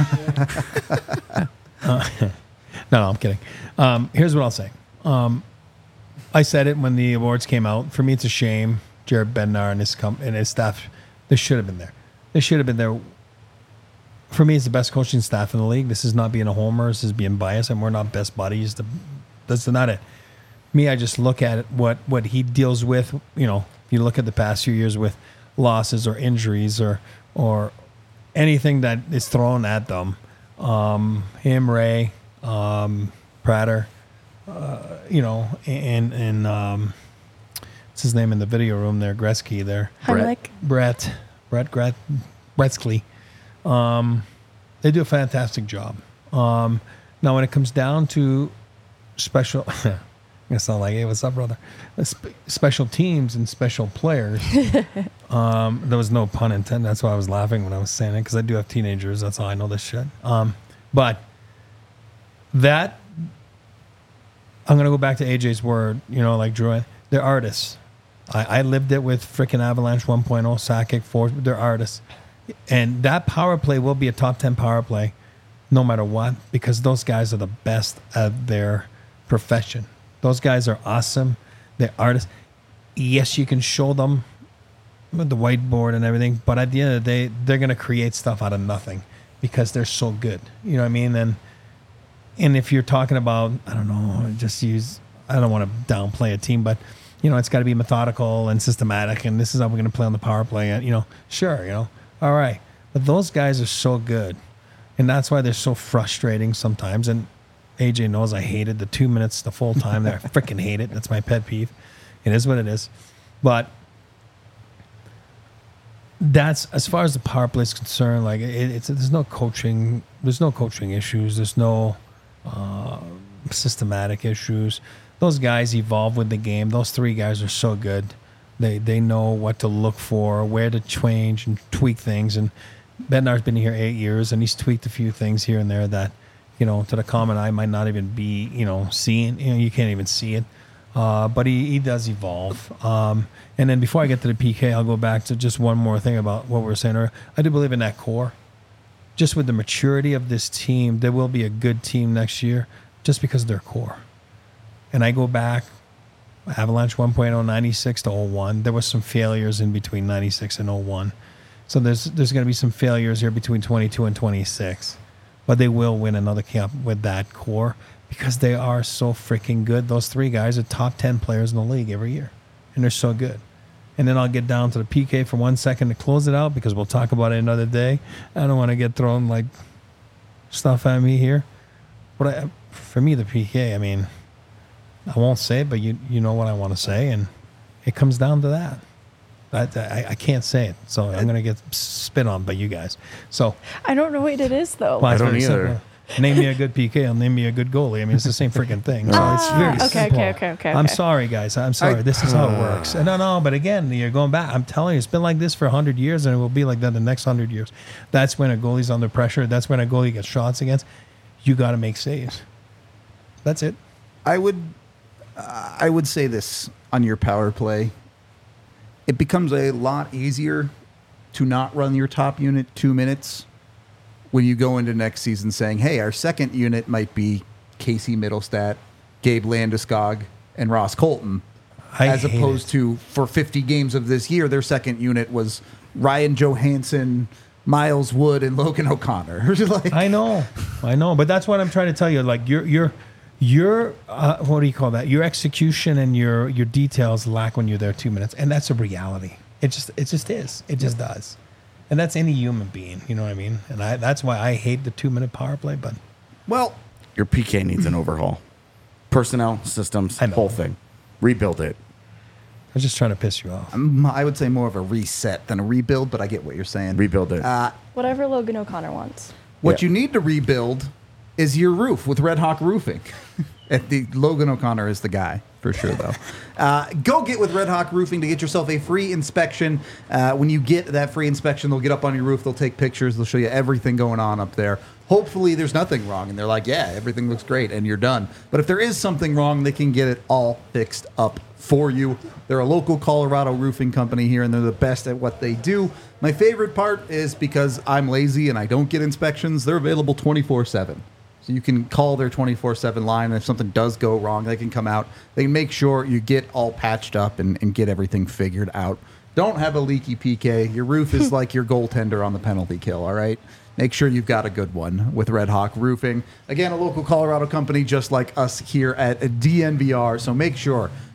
D: No, I'm kidding. Here's what I'll say. I said it when the awards came out. For me, it's a shame. Jared Bednar and his staff, they should have been there. They should have been there. For me, it's the best coaching staff in the league. This is not being a homer. This is being biased, and we're not best buddies. That's not it. Me, I just look at it, what he deals with. You look at the past few years with losses or injuries or anything that is thrown at them. Him, Ray, Prater, you know, and what's his name in the video room there, Gretzky there,
C: Heimlich.
D: Brett Gretzky. They do a fantastic job. Now, when it comes down to special, I'm gonna sound like, hey, what's up, brother? Special teams and special players. There was no pun intended. That's why I was laughing when I was saying it, because I do have teenagers. That's how I know this shit. But that, I'm gonna go back to AJ's word. You know, like Drew, they're artists. I lived it with freaking Avalanche 1.0, Sakic 4. They're artists, and that power play will be a top 10 power play, no matter what, because those guys are the best at their profession. Those guys are awesome. They're artists. Yes, you can show them with the whiteboard and everything, but at the end of the day, they're going to create stuff out of nothing because they're so good. You know what I mean? And if you're talking about, I don't know, I don't want to downplay a team, but, you know, it's got to be methodical and systematic, and this is how we're going to play on the power play. And, you know, sure, you know, all right. But those guys are so good, and that's why they're so frustrating sometimes. And AJ knows I hated the 2 minutes, the full time there. I freaking hate it. That's my pet peeve. It is what it is. But that's, as far as the power play is concerned, like there's no coaching issues. There's no systematic issues. Those guys evolve with the game. Those three guys are so good. They know what to look for, where to change and tweak things. And Bednar's been here 8 years, and he's tweaked a few things here and there that, you know, to the common eye might not even be, you know, seeing. You know, you can't even see it. But he does evolve. And then before I get to the PK, I'll go back to just one more thing about what we were saying earlier. I do believe in that core. Just with the maturity of this team, there will be a good team next year just because of their core. And I go back, Avalanche 1.0, 96 to 01. There was some failures in between 96 and 01. So there's going to be some failures here between 22 and 26. But they will win another cup with that core because they are so freaking good. Those three guys are top 10 players in the league every year. And they're so good. And then I'll get down to the PK for 1 second to close it out because we'll talk about it another day. I don't want to get thrown like stuff at me here. But for me, the PK, I mean, I won't say it, but you know what I want to say. And it comes down to that. I can't say it, so I'm going to get spit on by you guys. So
C: I don't know what it is, though.
B: I don't either.
D: Name me a good PK. I'll name me a good goalie. I mean, it's the same freaking thing. So it's very simple.
C: Okay.
D: I'm sorry, guys. I'm sorry. This is how it works. And no, but again, you're going back. I'm telling you, it's been like this for 100 years, and it will be like that the next 100 years. That's when a goalie's under pressure. That's when a goalie gets shots against. You got to make saves. That's it.
A: I would say this on your power play. It becomes a lot easier to not run your top unit 2 minutes when you go into next season saying, hey, our second unit might be Casey Middlestat, Gabe Landeskog, and Ross Colton. As opposed to, for 50 games of this year, their second unit was Ryan Johansson, Miles Wood, and Logan O'Connor. Like,
D: I know. But that's what I'm trying to tell you. Like, your what do you call that? Your execution and your details lack when you're there 2 minutes, and that's a reality. It just is. It just does, and that's any human being. You know what I mean? And that's why I hate the 2 minute power play. But
B: Your PK needs an overhaul. Personnel, systems, whole thing. Rebuild it.
D: I was just trying to piss you off.
A: I would say more of a reset than a rebuild, but I get what you're saying.
B: Rebuild it.
C: Whatever Logan O'Connor wants.
A: What you need to rebuild is your roof with Red Hawk Roofing. Logan O'Connor is the guy, for sure, though. Go get with Red Hawk Roofing to get yourself a free inspection. When you get that free inspection, they'll get up on your roof, they'll take pictures, they'll show you everything going on up there. Hopefully there's nothing wrong, and they're like, yeah, everything looks great, and you're done. But if there is something wrong, they can get it all fixed up for you. They're a local Colorado roofing company here, and they're the best at what they do. My favorite part is because I'm lazy and I don't get inspections, they're available 24/7. So you can call their 24/7 line, and if something does go wrong, they can come out. They can make sure you get all patched up and get everything figured out. Don't have a leaky PK. Your roof is like your goaltender on the penalty kill, all right? Make sure you've got a good one with Red Hawk Roofing. Again, a local Colorado company just like us here at DNVR. So make sure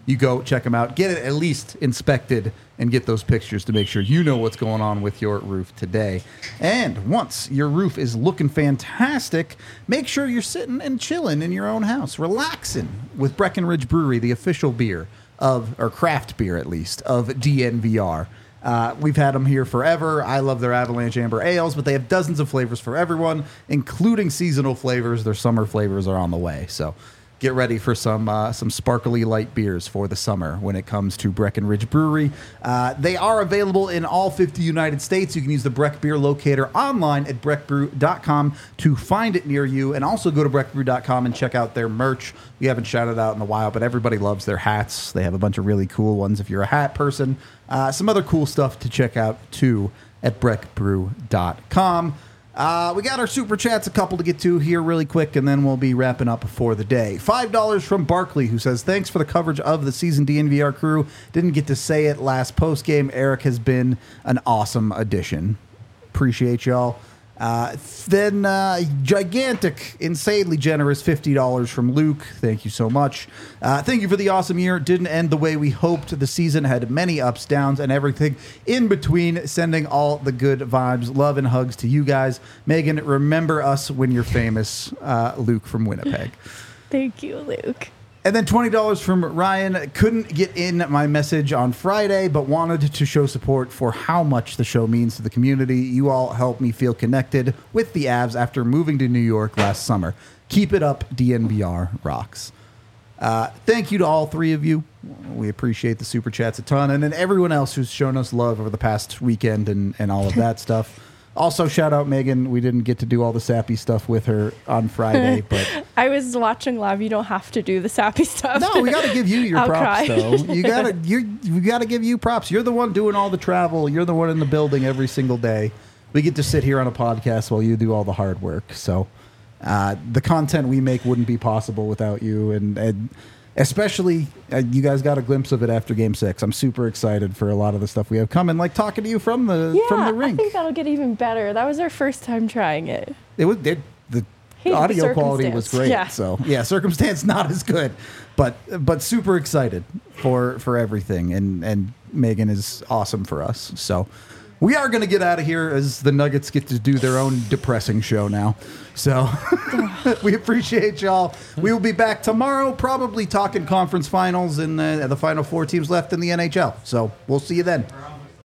A: you go check them out, get it at least inspected, and get those pictures to make sure you know what's going on with your roof today. And once your roof is looking fantastic, make sure you're sitting and chilling in your own house, relaxing with Breckenridge Brewery, the official beer of, or craft beer at least, of DNVR. We've had them here forever. I love their Avalanche Amber Ales, but they have dozens of flavors for everyone, including seasonal flavors. Their summer flavors are on the way. So get ready for some sparkly light beers for the summer when it comes to Breckenridge Brewery. They are available in all 50 United States. You can use the Breck Beer Locator online at breckbrew.com to find it near you. And also go to breckbrew.com and check out their merch. We haven't shouted out in a while, but everybody loves their hats. They have a bunch of really cool ones if you're a hat person. Some other cool stuff to check out, too, at breckbrew.com. We got our super chats, a couple to get to here really quick, and then we'll be wrapping up for the day. $5 from Barkley, who says, thanks for the coverage of the season DNVR crew. Didn't get to say it last postgame. Eric has been an awesome addition. Appreciate y'all. Then gigantic, insanely generous $50 from Luke. Thank you so much. Thank you for the awesome year. Didn't end the way we hoped. The season had many ups, downs, and everything in between. Sending all the good vibes, love, and hugs to you guys. Megan, remember us when you're famous. Luke from Winnipeg.
C: Thank you, Luke.
A: And then $20 from Ryan. Couldn't get in my message on Friday, but wanted to show support for how much the show means to the community. You all helped me feel connected with the Avs after moving to New York last summer. Keep it up, DNVR rocks. Thank you to all three of you. We appreciate the super chats a ton. And then everyone else who's shown us love over the past weekend and all of that stuff. Also, shout out Megan. We didn't get to do all the sappy stuff with her on Friday, but
C: I was watching live. You don't have to do the sappy stuff.
A: no, we got to give you your
C: I'll
A: props,
C: cry.
A: though. We got to give you props. You're the one doing all the travel. You're the one in the building every single day. We get to sit here on a podcast while you do all the hard work. So the content we make wouldn't be possible without you, and especially you guys got a glimpse of it after Game 6. I'm super excited for a lot of the stuff we have coming, like talking to you from the rink.
C: I think that'll get even better. That was our first time trying it.
A: The audio quality was great.
C: Yeah.
A: So yeah, circumstance not as good, but super excited for everything, and Megan is awesome for us. So we are going to get out of here as the Nuggets get to do their own depressing show now. So we appreciate y'all. We will be back tomorrow, probably talking conference finals and the final four teams left in the NHL. So we'll see you then.